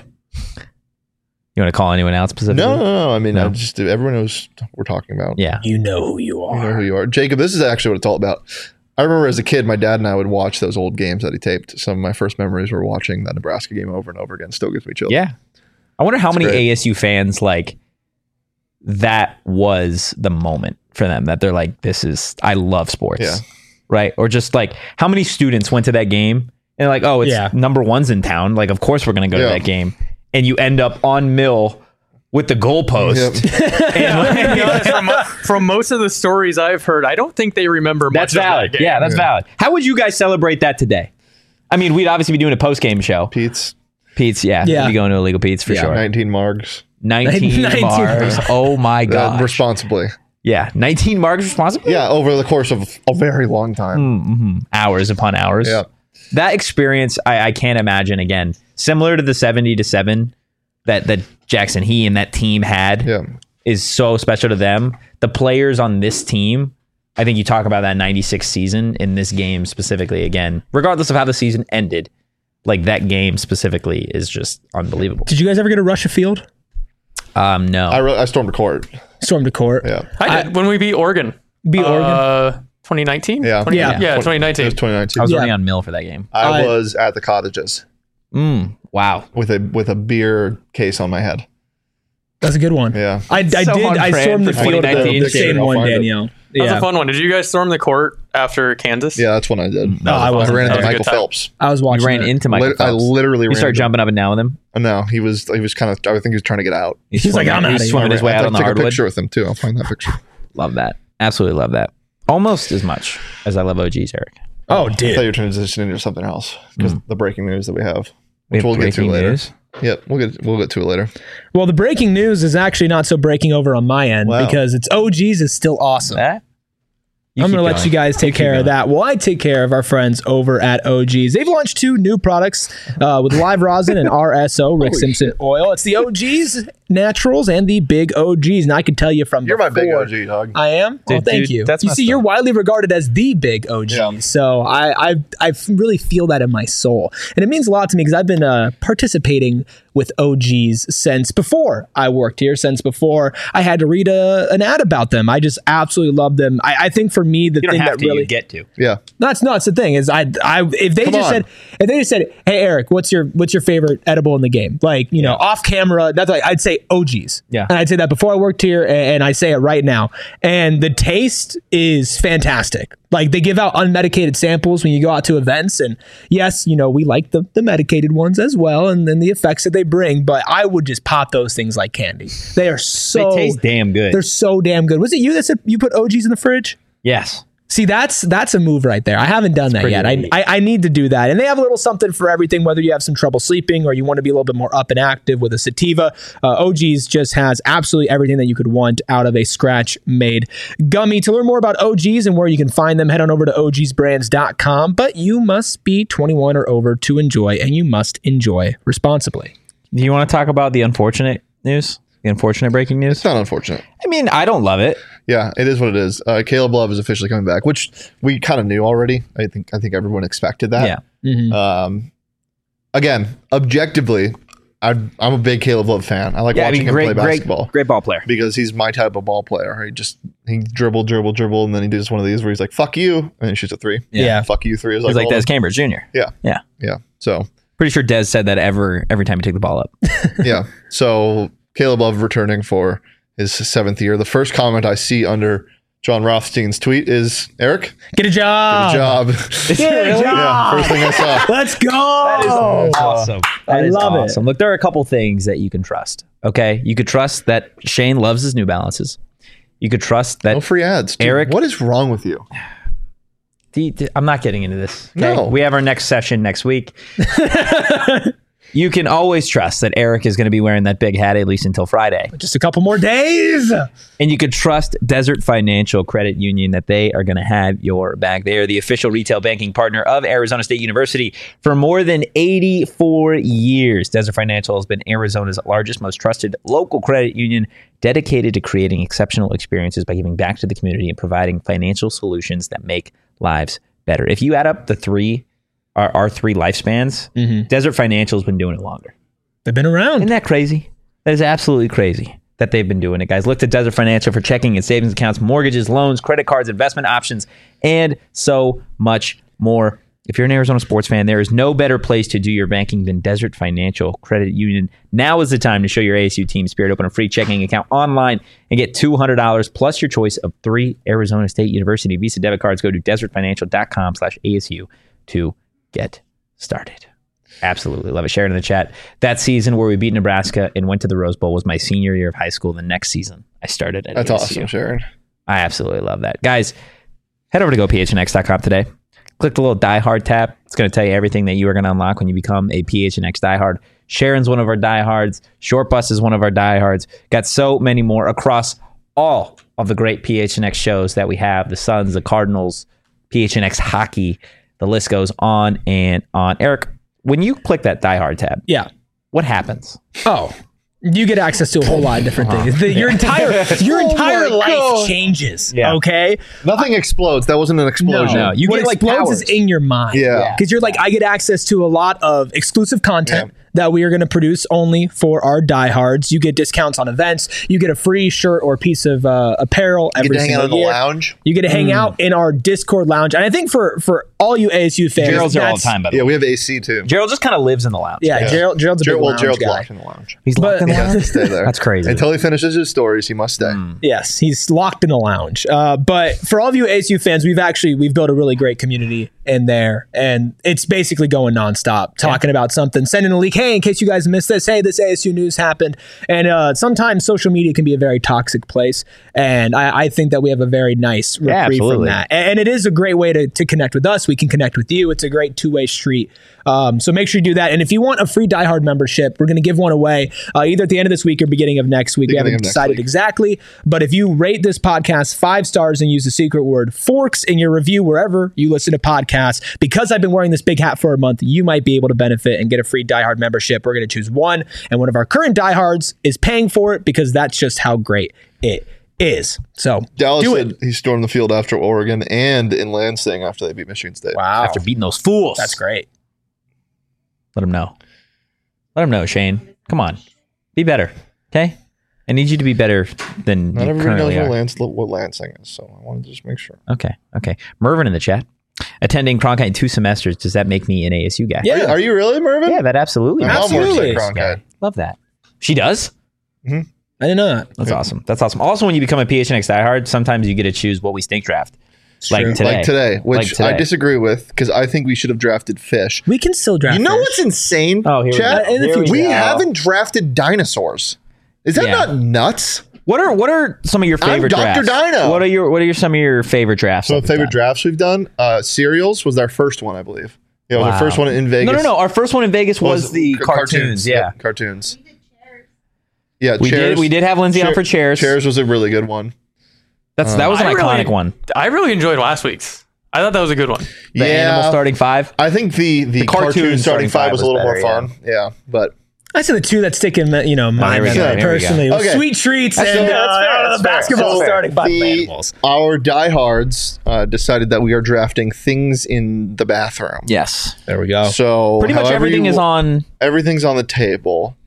You want to call anyone out specifically? No, no, no. I mean, no. I just everyone knows what we're talking about. Yeah, you know who you are. You know who you are, Jacob. This is actually what it's all about. I remember as a kid, my dad and I would watch those old games that he taped. Some of my first memories were watching that Nebraska game over and over again. Still gives me chills. Yeah, I wonder how it's many great. A S U fans like. That was the moment for them that they're like, this is, I love sports. Yeah. Right. Or just like how many students went to that game and like, oh, it's yeah. number one's in town. Like, of course we're going to go yeah. to that game. And you end up on Mill with the goalpost. Yep. and like, to be honest, from, from most of the stories I've heard, I don't think they remember much that's of valid. that game. Yeah, that's yeah. valid. How would you guys celebrate that today? I mean, we'd obviously be doing a post-game show. Pete's. Pete's, yeah. yeah. We'd be going to Illegal Pete's for yeah, sure. nineteen margs. nineteen, nineteen marks. Oh my god! Uh, responsibly. Yeah, nineteen marks responsibly. Yeah, over the course of a very long time, mm-hmm. hours upon hours. Yeah, that experience I, I can't imagine again. Similar to the seventy to seven that that Jackson he and that team had. Yeah. is so special to them. The players on this team. I think you talk about that ninety-six season in this game specifically. Again, regardless of how the season ended. Like that game specifically is just unbelievable. Did you guys ever get to Russia Field? Um, no. I, re- I stormed a court. Stormed a court. Yeah, I did I, when we beat Oregon. Beat uh, Oregon. twenty nineteen. Yeah, twenty, yeah, yeah, twenty nineteen. It was twenty nineteen. I was yeah. already on Mill for that game. I uh, was at the cottages. Mm, wow. With a with a beer case on my head. That's a good one. Yeah, I, I so did. I stormed the field. The, the same one, Danielle. That was yeah. a fun one. Did you guys storm the court after Kansas? Yeah, that's when I did. No, I wasn't. I ran That into was a Michael good time. Phelps. I was watching. You ran it. into Michael Lit- Phelps. I literally You ran started into jumping up and down with him. No, he was he was kind of. I think he was trying to get out. He's, He's like, I'm he's outta here. swimming his way I out on the took a hardwood. picture with him too. I'll find that picture. Love that. Absolutely love that. Almost as much as I love O Gs, Eric. Oh, I thought dude. you were transitioning into something else because Mm. the breaking news that we have. which we'll get to later. News? Yep, we'll get we'll get to it later. Well, the breaking news is actually not so breaking over on my end wow. because it's O G's is still awesome. That? You I'm going to let you guys take care going. of that. Well, I take care of our friends over at O G's. They've launched two new products uh, with live rosin and R S O, Rick Simpson shit. oil. It's the O G's Naturals and the Big O G's. And I can tell you from You're before, my big O G, dog. I am? Dude, oh, thank dude, you. That's you see, stuff. You're widely regarded as the Big O G. Yeah. So I, I I really feel that in my soul. And it means a lot to me because I've been uh, participating with O G's since before I worked here, since before I had to read a, an ad about them. I just absolutely love them. I, I think for me, the you thing don't have that to, really you get to. Yeah. No, it's not. It's the thing is I, I, if they Come just on. said, if they just said, hey, Eric, what's your, what's your favorite edible in the game? Like, you know, Yeah. off camera, that's like, I'd say O G's. Yeah. And I'd say that before I worked here and, and I say it right now. And the taste is fantastic. Like they give out unmedicated samples when you go out to events. And yes, you know, we like the, the medicated ones as well. And then the effects that they bring, but I would just pop those things like candy. They are so, They taste damn good. they're so damn good. Was it you that said you put O G's in the fridge? Yes. See, that's that's a move right there. I haven't done that yet. I, I I need to do that. And they have a little something for everything, whether you have some trouble sleeping or you want to be a little bit more up and active with a sativa. Uh, O G's just has absolutely everything that you could want out of a scratch-made gummy. To learn more about O G's and where you can find them, head on over to O Gs brands dot com. But you must be twenty-one or over to enjoy, and you must enjoy responsibly. Do you want to talk about the unfortunate news? The unfortunate breaking news? It's not unfortunate. I mean, I don't love it. Yeah, it is what it is. Uh, Caleb Love is officially coming back, which we kind of knew already. I think I think everyone expected that. Yeah. Mm-hmm. Um, again, objectively, I, I'm a big Caleb Love fan. I like Yeah, I watching mean, him great, play basketball great, great ball player. because he's my type of ball player. He just he dribble, dribble, dribble, and then he does one of these where he's like "fuck you" and he shoots a three. Yeah. "Fuck you" three is He's like, like oh, Des Cambridge Junior Yeah, Yeah. yeah. So Pretty sure Des said that ever every time he took the ball up. yeah. So Caleb Love returning for his seventh year. The first comment I see under John Rothstein's tweet is, Eric, Get a job. get a job. Get a job. Yeah, first thing I saw. Let's go. Awesome. I That is love it. awesome. Look, there are a couple things that you can trust. Okay. You could trust that Shane loves his New Balances. You could trust that No free ads. Dude, Eric- what is wrong with you? The- the- I'm not getting into this. Okay? No. We have our next session next week. You can always trust that Eric is going to be wearing that big hat at least until Friday. Just a couple more days. And you could trust Desert Financial Credit Union that they are going to have your back. They are the official retail banking partner of Arizona State University for more than eighty-four years. Desert Financial has been Arizona's largest, most trusted local credit union, dedicated to creating exceptional experiences by giving back to the community and providing financial solutions that make lives better. If you add up the three, our, our three lifespans, Mm-hmm. Desert Financial has been doing it longer. They've been around. Isn't that crazy? That is absolutely crazy that they've been doing it, guys. Look to Desert Financial for checking and savings accounts, mortgages, loans, credit cards, investment options, and so much more. If you're an Arizona sports fan, there is no better place to do your banking than Desert Financial Credit Union. Now is the time to show your A S U team spirit. Open a free checking account online and get two hundred dollars plus your choice of three Arizona State University Visa debit cards. Go to desert financial dot com slash A S U to get started. Absolutely love it. Share it in the chat. That season where we beat Nebraska and went to the Rose Bowl was my senior year of high school. The next season, I started at That's A S U. awesome, Sharon. I absolutely love that. Guys, head over to go p h n x dot com today. Click the little Die Hard tab. It's going to tell you everything that you are going to unlock when you become a P H N X diehard. Sharon's one of our diehards. Short Bus is one of our diehards. Got so many more across all of the great P H N X shows that we have. The Suns, the Cardinals, P H N X hockey. The list goes on and on. Eric, when you click that Die Hard tab, Yeah. what happens? Oh, you get access to a whole lot of different things. The- your entire your Oh entire my life God. changes. Yeah. Okay. Nothing explodes. That wasn't an explosion. No, you what get like explodes powers. is in your mind. Yeah. Because you're like, I get access to a lot of exclusive content Yeah. that we are going to produce only for our diehards. You get discounts on events. You get a free shirt or piece of uh, apparel You every get to hang single out in the year. lounge. You get to hang out in our Discord lounge. And I think for for all you A S U fans, Gerald's there all the that's- time, by the Yeah, way. we have A C too. Gerald just kind of lives in the lounge. Yeah, Yeah. Gerald, Gerald's a big Gerald, well, lounge Gerald's guy. locked in the lounge. He's But- locked in the He has lounge. to stay there. That's crazy. Until he finishes his stories, he must stay. Yes, he's locked in the lounge. Uh, but for all of you A S U fans, we've actually we've built a really great community in there, and it's basically going nonstop, talking yeah. about something, sending a leak. Hey, in case you guys missed this, hey, this A S U news happened. And uh, sometimes social media can be a very toxic place, and I, I think that we have a very nice reprieve yeah, from that. And, and it is a great way to, to connect with us. We can connect with you. It's a great two-way street. Um, so make sure you do that. And if you want a free Die Hard membership, we're going to give one away uh, either at the end of this week or beginning of next week. Beginning we haven't decided exactly, but if you rate this podcast five stars and use the secret word Forks in your review wherever you listen to podcasts, because I've been wearing this big hat for a month, you might be able to benefit and get a free Die Hard membership. We're going to choose one, and one of our current diehards is paying for it because that's just how great it is. So Dallas do said it. He stormed the field after Oregon and in Lansing after they beat Michigan State. Wow. After beating those fools. That's great. Let him know. Let him know, Shane. Come on. Be better. Okay? I need you to be better than Not you everybody knows currently what, are. Lans- what Lansing is, so I wanted to just make sure. Okay. Okay. Mervin in the chat. Attending Cronkite two semesters, does that make me an A S U guy? Yeah. Are you, are you really, Mervin? Yeah, that absolutely. My mom works Absolutely. at Cronkite. Love that. She does? Mm-hmm. I didn't know that. That's yeah. awesome. That's awesome. Also, when you become a P H N X diehard, sometimes you get to choose what we stink draft. Like true. today. Like today, which Like today. I disagree with because I think we should have drafted fish. We can still draft. You know fish. what's insane, Oh, here we Chad? go. In the Here we future. We go. haven't drafted dinosaurs. Is that Yeah. not nuts? What are what are some of your I'm favorite Doctor drafts? Dino. What are your what are your, some of your favorite drafts? So of the favorite time? drafts we've done, uh, cereals was our first one, I believe. Yeah, it was Wow. our first one in Vegas. No, no, no. Our first one in Vegas was, the c- cartoons. Yeah, Yep, cartoons. Yeah, we chairs. did. We did have Lindsay on for chairs. Chairs was a really good one. That's that was an I iconic really, one. I really enjoyed last week's. I thought that was a good one. The animal starting five. I think the the, The cartoon cartoon, starting starting five five was a was little better, more fun. Yeah, but I said the two that stick in, you know, my here we memory go, here we go. personally. was Okay. Sweet treats That's and fair, that's uh, fair, uh, that's fair. basketball So starting five the- animals. our diehards uh, decided that we are drafting things in the bathroom. Yes, There we go. So pretty much however everything you- is on. Everything's on the table.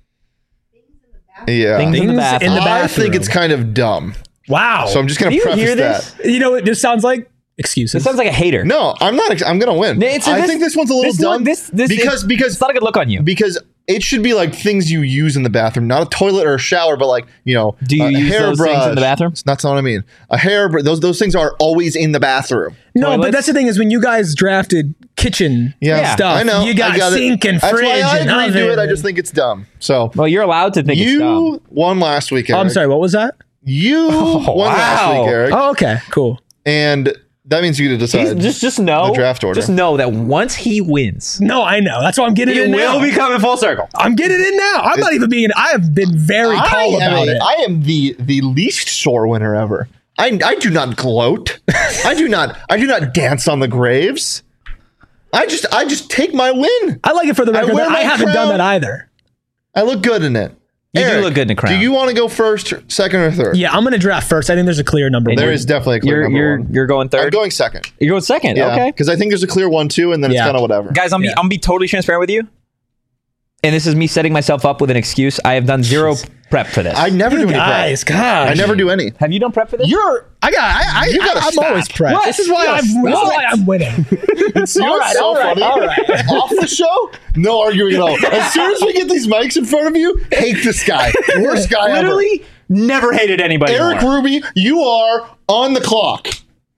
Yeah, Things in the Things bathroom. in the I bathroom. think it's kind of dumb. Wow. So I'm just Do gonna you preface hear that. this? you know what this sounds like? Excuses. It sounds like a hater. No, I'm not. ex- I'm gonna win. It's- I this- think this one's a little this dumb. one- this- this- because it- because It's not a good look on you. because it should be like things you use in the bathroom, not a toilet or a shower, but like you know, Do you a use hair those brush. things in the bathroom? That's not what I mean. A hair. Br- those those things are always in the bathroom. no, but toilets? that's the thing is when you guys drafted kitchen Yeah, stuff, I know. you got, I got sink it. and That's fridge why I and agreed to oven it. I and- just think it's dumb. So Well, you're allowed to think it's dumb. you won last week. Oh, I'm Eric. sorry, what was that? You won last wow. week, Eric, Oh, okay, cool. and that means you get to He's- decide. just just know the draft order. Just know that once he wins, No, I know. That's why I'm getting it in will now. be coming full circle. I'm getting in now. I'm not even being. I have been very I calm am, about a- it. I am the the least sore winner ever. I I do not gloat. I do not I do not dance on the graves. I just I just take my win. I like it for the I record. wear that I my haven't done crown. that either. I look good in it. You do Eric, look good in a crown. Do you want to go first, second, or third? Yeah, I'm gonna draft first. I think there's a clear number. There one. is definitely a clear You're number you're one. you're going I'm third. going second. You're going second. Yeah, Okay, because I think there's a clear one too, and then Yeah. it's kind of whatever. guys, I'm be, Yeah. I'm be totally transparent with you. And this is me setting myself up with an excuse. I have done zero prep for this. I never You do any guys, prep. gosh. I never do any. have you done prep for this? You're. I got. I. I, You gotta I I'm stop. always prepped. What? This is why You I'm. gotta This is stop. why I'm winning. It's you know All what's right, so all right, funny. all right. Off the show, no arguing at all. As soon as we get these mics in front of you, hate this guy. Worst guy ever. Literally never hated anybody Eric more. Ruby, you are on the clock.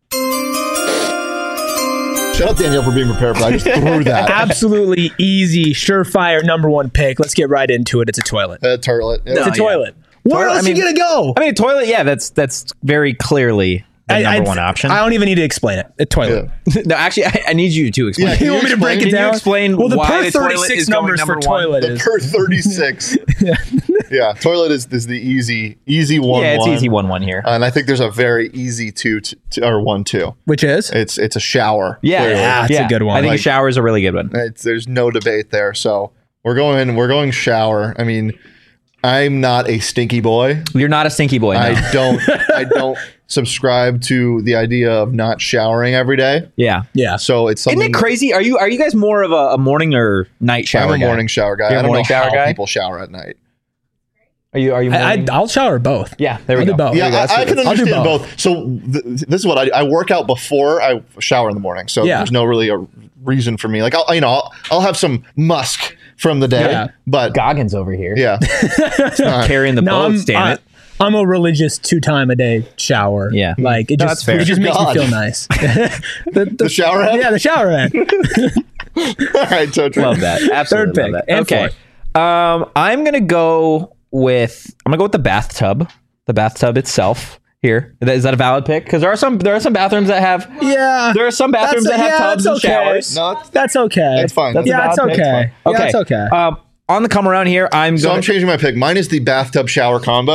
Shout out Danielle for being prepared for that. I just threw that. Absolutely easy, surefire number one pick. Let's get right into it. It's a toilet. Uh, toilet. Yeah. It's a yeah. toilet. Where Toilet, else I mean- you gonna go? I mean, a toilet. Yeah, that's that's very clearly the I- number I- one option. I don't even need to explain it. A toilet. Yeah. no, actually, I, I need you to explain. Yeah, it. can You want me to break it Can you down? explain well, the why per the toilet thirty-six is going numbers for number one? toilet The is. per thirty-six. Yeah, toilet is, is the easy, easy one. Yeah, it's one. easy one one here. And I think there's a very easy two, t- t- or one two. Which is? It's it's a shower. yeah, clearly. yeah, that's a good one. I think Like- a shower is a really good one. It's, there's no debate there. So we're going we're going shower. I mean, I'm not a stinky boy. You're not a stinky boy. No. I don't I don't subscribe to the idea of not showering every day. yeah. Yeah. So it's something. Isn't it crazy? Are you are you guys more of a, a morning or night shower I'm a guy? morning shower guy. You're a I don't morning know shower how guy? people shower at night. Are you are you? I, I, morning? I'll shower both. yeah, there we I'll go. do both. Yeah, There you go. I, I That's- can I'll do understand both. So th- this is what I, I work out before I shower in the morning. So Yeah. there's no really a reason for me. Like I'll you know I'll, I'll have some musk from the day, Yeah. but Goggins over here. yeah, it's not- Carrying the No, I'm, boats, damn I, it. I'm a religious two time a day shower. Yeah. Like it No, just that's fair. it just makes God. me feel nice. the, The shower head? Yeah, the shower head. All right, so true. Love that. Absolutely. Third love pick. that. And Okay. Um, I'm gonna go with I'm gonna go with the bathtub. The bathtub itself. Here is that a valid pick? Because there are some there are some bathrooms that have Yeah. there are some bathrooms That's- that have yeah, tubs that's and okay. showers. No, it's- That's okay. That's fine. That's a yeah, valid it's pick. okay. Okay. Yeah, it's okay. Um, on the come around here, I'm So going. I'm changing my pick. Mine is the bathtub shower combo.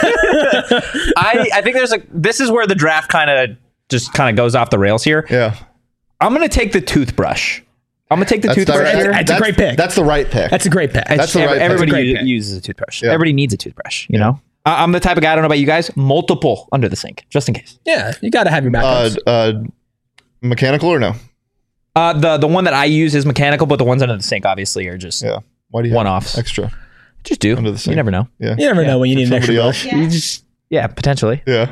I I think there's a. This is where the draft kind of just kind of goes off the rails here. Yeah. I'm gonna take the toothbrush. I'm gonna take the That's, the toothbrush right, here. That's a great pick. That's the right pick. That's a great pick. That's the Every- right pick. Everybody That's a great u- pick. uses a toothbrush. Yeah. Everybody needs a toothbrush. You know. I- I'm the type of guy. I don't know about you guys. Multiple under the sink, just in case. Yeah, you got to have your uh, backups. uh, mechanical or no? Uh, the the one that I use is mechanical, but the ones under the sink obviously are just Yeah. Why do you one-offs. have extra? just do. Under the sink. You never know. Yeah. you never know when you need an Somebody extra else. brush. You just yeah, potentially. Yeah.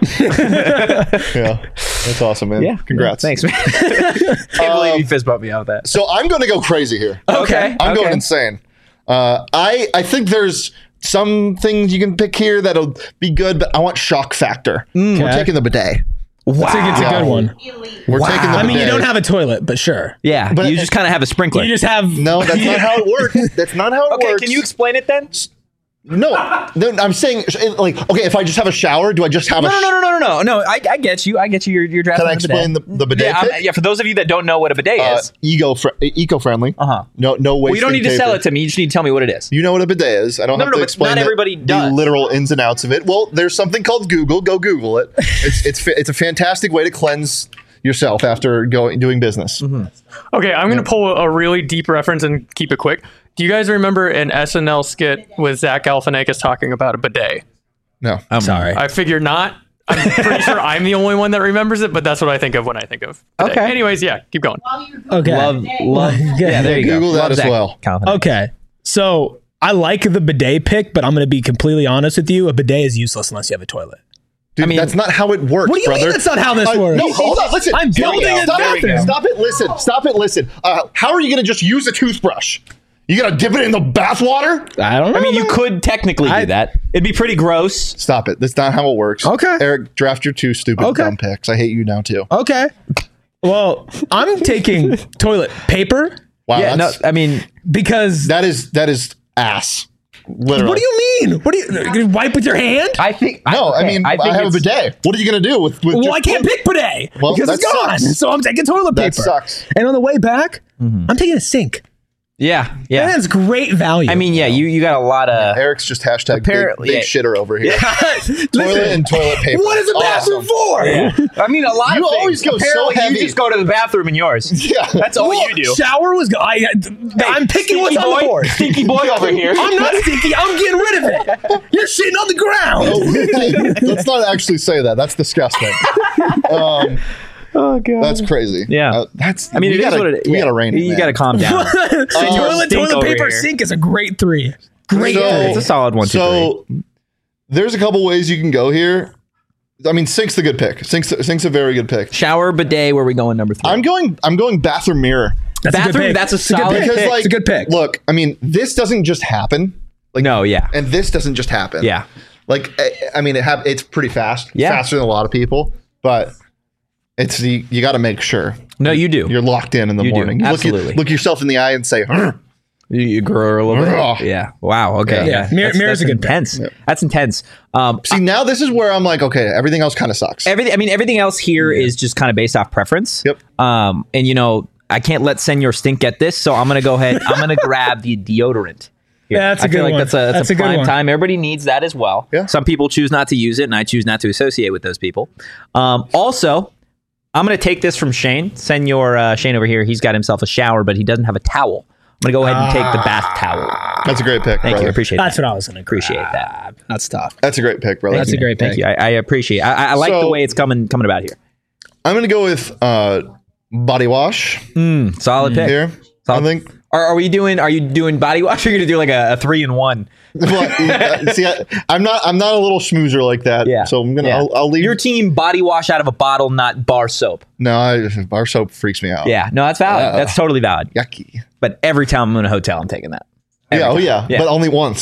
yeah. That's awesome, man. Yeah. Congrats. Thanks, man. Can't believe you fist bumped me out with that. So I'm going to go crazy here. Okay. I'm okay. going insane. Uh, I I think there's some things you can pick here that'll be good, but I want shock factor. We're Okay. taking the bidet. I think it's a Wow. good one. We're taking the I mean, you bidet. don't have a toilet, but sure. Yeah, But you it- just kind of have a sprinkler. You just have No, that's not how it works. That's not how it okay, works. can you explain it then? No, no, I'm saying like okay. If I just have a shower, do I just have No, a? no, no, no, no, no, no. No, I, I get you. I get you. You're, you're drafting. Can I a explain bidet. the, the bidet? Yeah, I'm- pick? yeah. For those of you that don't know what a bidet Uh, is, ego fr- eco-friendly. uh huh. No, no wasting Well, you don't need to sell paper. it to me. You just need to tell me what it is. You know what a bidet is. I don't No, have no, to but explain not the- everybody the does. literal ins and outs of it. Well, there's something called Google. Go Google it. It's it's fa- it's a fantastic way to cleanse yourself after going doing business. Mm-hmm. Okay, I'm going to pull a really deep reference and keep it quick. Do you guys remember an S N L skit with Zach Galifianakis talking about a bidet? No, I'm Sorry. I figure not. I'm pretty sure I'm the only one that remembers it, but that's what I think of when I think of bidet. Okay. Anyways, yeah, keep going. Okay. Love, love. Yeah, there you Google go. that Love as Zach well. Galifianakis. Okay. So I like the bidet pick, but I'm going to be completely honest with you. A bidet is useless unless you have a toilet. dude, I mean- that's not how it works. What do you brother. mean that's not how this Uh, works? No, hold on. Listen. I'm Here we building go. a Stop bathroom. it. Stop it. Listen. Stop it. Listen. Uh, how are you going to just use a toothbrush? You got to dip it in the bath water? I don't know. I mean, you man. could technically I- do that. It'd be pretty gross. Stop it. That's not how it works. Okay. Eric, draft your two stupid Okay. dumb picks. I hate you now too. Okay. Well, I'm taking toilet paper Wow. yeah, no, that's, I mean, because that is that is ass. Literally. what do you mean? What do you, you wipe with your hand? I think. No, I okay, mean I, think have a it's- bidet. What are you going to do with? with Well, just- I can't pick bidet Well, because it's that gone. sucks. So I'm taking toilet paper. That sucks. And on the way back, I'm taking a sink. Yeah, yeah. That's great value. I mean, yeah, you you got a lot of. Eric's just hashtag big, Apparently- big yeah. shitter over here. Toilet Listen, and toilet paper. what is a bathroom Awesome. for? I mean, a lot You of things. always go so Apparently, heavy. You just go to the bathroom in yours. Yeah. That's all Well, you do. Shower was. Go- I, I'm picking what's Stinky on the boy, board. Stinky boy over here. I'm not stinky. I'm getting rid of it. You're shitting on the ground. Oh, let's not actually say that. That's disgusting. Um, Oh god. that's crazy. Yeah. Uh, that's. I mean, we it is gotta, what it is. We Yeah. gotta rein it. You man. got to calm down. toilet, stink toilet over paper, here. sink is a great three. Great So- three. It's a solid one, two, So there's a couple ways you can go here. I mean, sink's a good pick. Sink's sink's a very good pick. Shower, bidet. Where are we going? Number three. I'm going. I'm going bathroom mirror That's a good bathroom. pick. That's a It's a good solid pick. because pick. like It's a good pick. Look, I mean, this doesn't just happen, no, yeah, and this doesn't just happen. yeah. Like I, I mean, it hap- It's pretty fast. Yeah. Faster than a lot of people, but it's you, you got to make sure No, you do. you're locked in in the You do. morning. You look, Absolutely. look yourself in the eye and say, "Huh." You, you grow a little Ugh. bit. Yeah. Wow. Okay. Yeah. Yeah. Mirror- That's, mirror's that's a good pick. intense. That's intense. Um, See, now this is where I'm like, okay, everything else kind of sucks. everything. I mean, everything else here is just kind of based off preference. Yep. Um, and you know, I can't let Senor Stink get this, so I'm gonna go ahead. I'm gonna grab the deodorant. Here. Yeah, that's a I feel good like one. that's a that's, That's a a good prime one. time. Everybody needs that as well. Yeah. Some people choose not to use it, and I choose not to associate with those people. Um, also, I'm gonna take this from Shane. Senor uh, Shane over here. He's got himself a shower, but he doesn't have a towel. I'm gonna go ahead and take the bath towel. That's a great pick. Thank brother. you. I appreciate That's that. what I was going to Appreciate that. That's tough. That's a great pick, brother. That's a great Thank pick. you. I, I appreciate. I, I like So- the way it's coming coming about here. I'm gonna go with uh, body wash Mm, solid pick. here. I Solid. think. Are, are we doing? Are you doing body wash? Or are you gonna do like a, a three in one? Well, uh, see, I, I'm not. I'm not a little schmoozer like that. Yeah. So I'm gonna. Yeah. I'll, I'll leave. Your team body wash out of a bottle, not bar soap. no, I, bar soap freaks me out. Yeah, no, that's valid. Uh, that's totally valid. Yucky. But every time I'm in a hotel, I'm taking that. Every Yeah. Oh time. yeah. Yeah. But only once.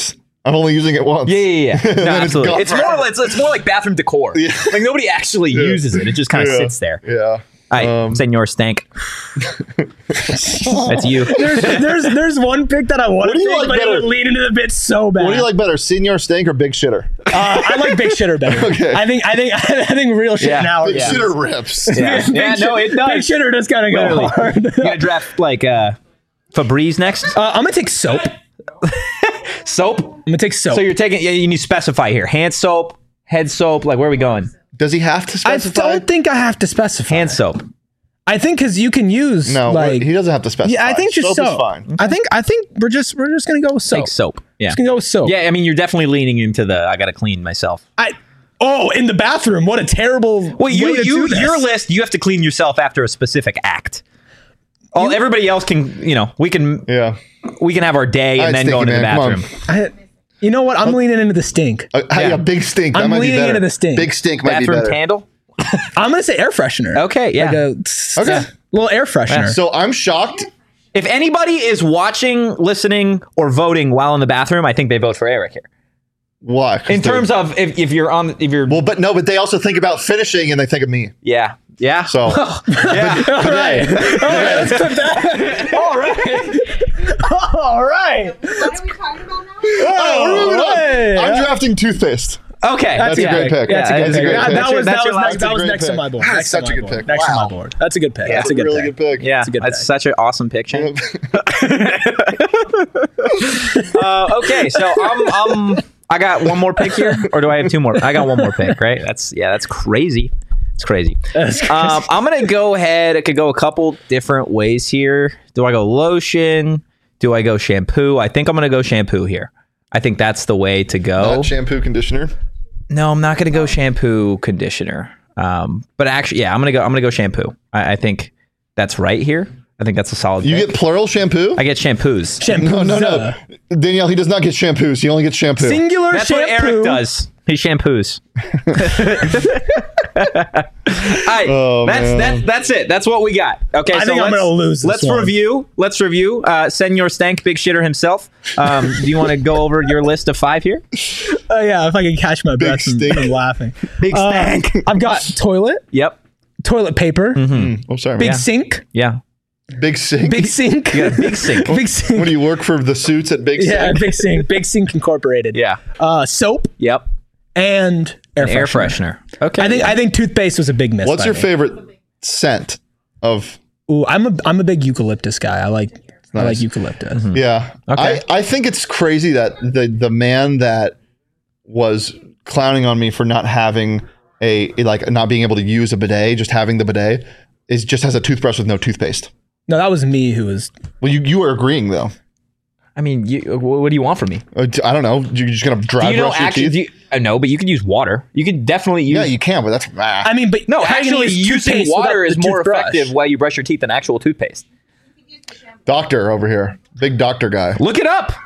I'm only using it once. Yeah, yeah, yeah. No, absolutely. It's, it's more. It's, it's more like bathroom decor. Yeah. Like nobody actually yeah. uses it. It just kind of yeah. sits there. Yeah. All right, um, Senor Stank. That's you. There's, there's there's one pick that I want to take, like but better? It would lean into the bit so bad. What do you like better, Senor Stank or Big Shitter? Uh, I like Big Shitter better. Okay. I think I think I think real shit yeah. now. Big yeah. Shitter rips. Yeah, yeah no, it does. Big Shitter does kind of go Literally. hard. You gonna draft like uh, Febreze next? Uh, I'm gonna take soap. Soap? I'm gonna take soap. So you're taking. Yeah, you need to specify here. Hand soap, head soap. Like where are we going? Does he have to specify? I don't think I have to specify. Hand soap. I think because you can use no, like he doesn't have to specify. Yeah, I think just soap, soap. is fine. Okay. I think I think we're just we're just gonna go with soap. Take soap. Yeah, just gonna go with soap. Yeah, I mean you're definitely leaning into the I gotta clean myself. I oh in the bathroom. What a terrible. Well, you way to you do this. your list. You have to clean yourself after a specific act. All you, everybody else can you know we can yeah we can have our day and right, then go into man. the bathroom. I, you know what? I'm uh, leaning into the stink. Uh, yeah. yeah, big stink. That I'm might leaning be into the stink. Big stink might bathroom be better. candle. I'm gonna say air freshener. Okay, yeah. Like a, okay. Yeah, little air freshener. Yeah. So I'm shocked. If anybody is watching, listening, or voting while in the bathroom, I think they vote for Eric here. Why? In terms of if, if you're on, if you're well, but no, but they also think about finishing and they think of me. Yeah, yeah. So yeah. All right, all right. Let's put that. All right, all right. What are we talking about now? Oh, oh right. I'm drafting toothpaste. Okay, that's, that's yeah, a great pick. Yeah, that's, yeah, a good that's pick. a great Yeah, pick. that was that's that was, next, that's that was next pick. to my board. That's next such to a good board. pick. Next wow. to my board. That's a good pick. Yeah, that's a good really pick. good pick. Yeah, that's a good that's pick. such an awesome pick, Shane. uh, okay, so I'm I'm I got one more pick here, or do I have two more? I got one more pick, right? That's yeah, that's crazy. It's crazy. That's crazy. Um, I'm gonna go ahead. I could go a couple different ways here. Do I go lotion? Do I go shampoo? I think I'm gonna go shampoo here. I think that's the way to go. Not shampoo, conditioner. No, I'm not gonna go shampoo, conditioner. Um, but actually, yeah, I'm gonna go. I'm gonna go shampoo. I, I think that's right here. I think that's a solid. You pick. get plural shampoo? I get shampoos. Shampoo. No, no, no. Danielle, he does not get shampoos. He only gets shampoo. Singular That's shampoo. what Eric does. He shampoos. All right, Oh, that's man. that's that's it. That's what we got. Okay, I so think I'm let's, gonna lose this let's one. review. Let's review. Uh, Senor Stank, Big Shitter himself. Um, do you want to go over your list of five here? Uh, yeah, if I can catch my breath from, stink. from laughing. Big Uh, Stank. I've got toilet, Yep. toilet paper, Mm, oh, sorry. big man. sink, Yeah. Big sink. big sink, You got a big sink. big sink. What do you work for the suits at Big Yeah, Sink? big sink, big sink incorporated. Yeah. Uh, soap Yep. and air An air freshener. freshener. Okay. I think I think toothpaste was a big miss. What's by your me. favorite scent of? Ooh, I'm a I'm a big eucalyptus guy. I like I Nice. like eucalyptus. Yeah. Okay. I, I think it's crazy that the the man that was clowning on me for not having a like not being able to use a bidet, just having the bidet, is just has a toothbrush with no toothpaste. No, that was me who was. Well, you you were agreeing though. I mean, you, what do you want from me? Uh, I don't know. You're just gonna dry Do you know brush your actually? teeth? Do you, uh, no, but you could use water. You could definitely use. Yeah, you can, but that's ah. I mean, but No, how are you gonna actually, use using toothpaste water without is the more toothbrush? effective while you brush your teeth than actual toothpaste. Doctor over here, big doctor guy. Look it up,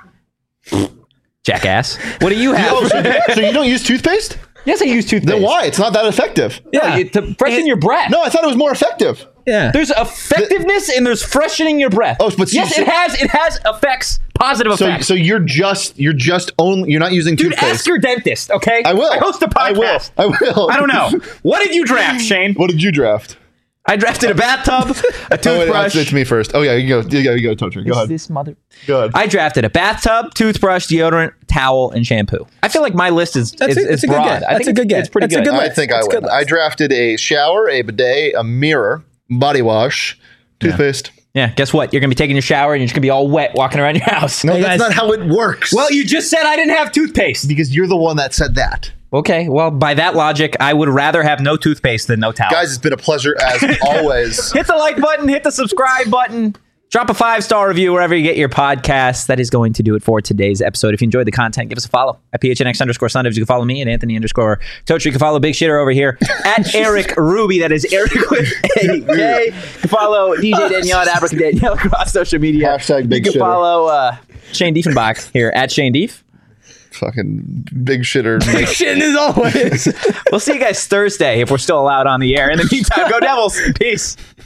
jackass. What do you have? Oh, so, so you don't use toothpaste? Yes, I use toothpaste. Then why? It's not that effective. Yeah, you, to freshen your breath. No, I thought it was more effective. Yeah. There's effectiveness and there's freshening your breath. Oh, but yes, you- it has. It has effects. Positive So, effects. so you're just you're just only you're not using Dude, toothpaste. ask your dentist. Okay, I will. I host a podcast. I will. I will. I don't know. What did you draft, Shane? What did you draft? I drafted a bathtub, a Oh, wait, toothbrush. it's me first. Oh yeah, you go. You go. You go, Toaster. Go Is ahead. this mother? Go ahead. I drafted a bathtub, toothbrush, deodorant, towel, and shampoo. I feel like my list is That's is, a- is that's a good broad. get. I That's think a good it's, get. it's pretty That's a good. good I list. think That's I a good win. list. I drafted a shower, a bidet, a mirror, body wash, toothpaste. Yeah, guess what? You're gonna be taking your shower and you're just gonna be all wet walking around your house. No, Hey, that's guys. not how it works. Well, you just said I didn't have toothpaste. because you're the one that said that. Okay, well, by that logic, I would rather have no toothpaste than no towel. Guys, it's been a pleasure as always. Hit the like button, hit the subscribe button, drop a five star review wherever you get your podcasts. That is going to do it for today's episode. If you enjoyed the content, give us a follow at P H N X underscore Sundays. You can follow me at Anthony underscore Toaster. You can follow Big Shitter over here at Eric Ruby. That is Eric with a K. You can follow D J Danielle at Abrica Danielle across social media. Hashtag Big You can Shitter. follow uh, Shane Diefenbach here at Shane Dief. Fucking big shitter. Shit as always. We'll see you guys Thursday if we're still allowed on the air. In the meantime, go Devils. Peace.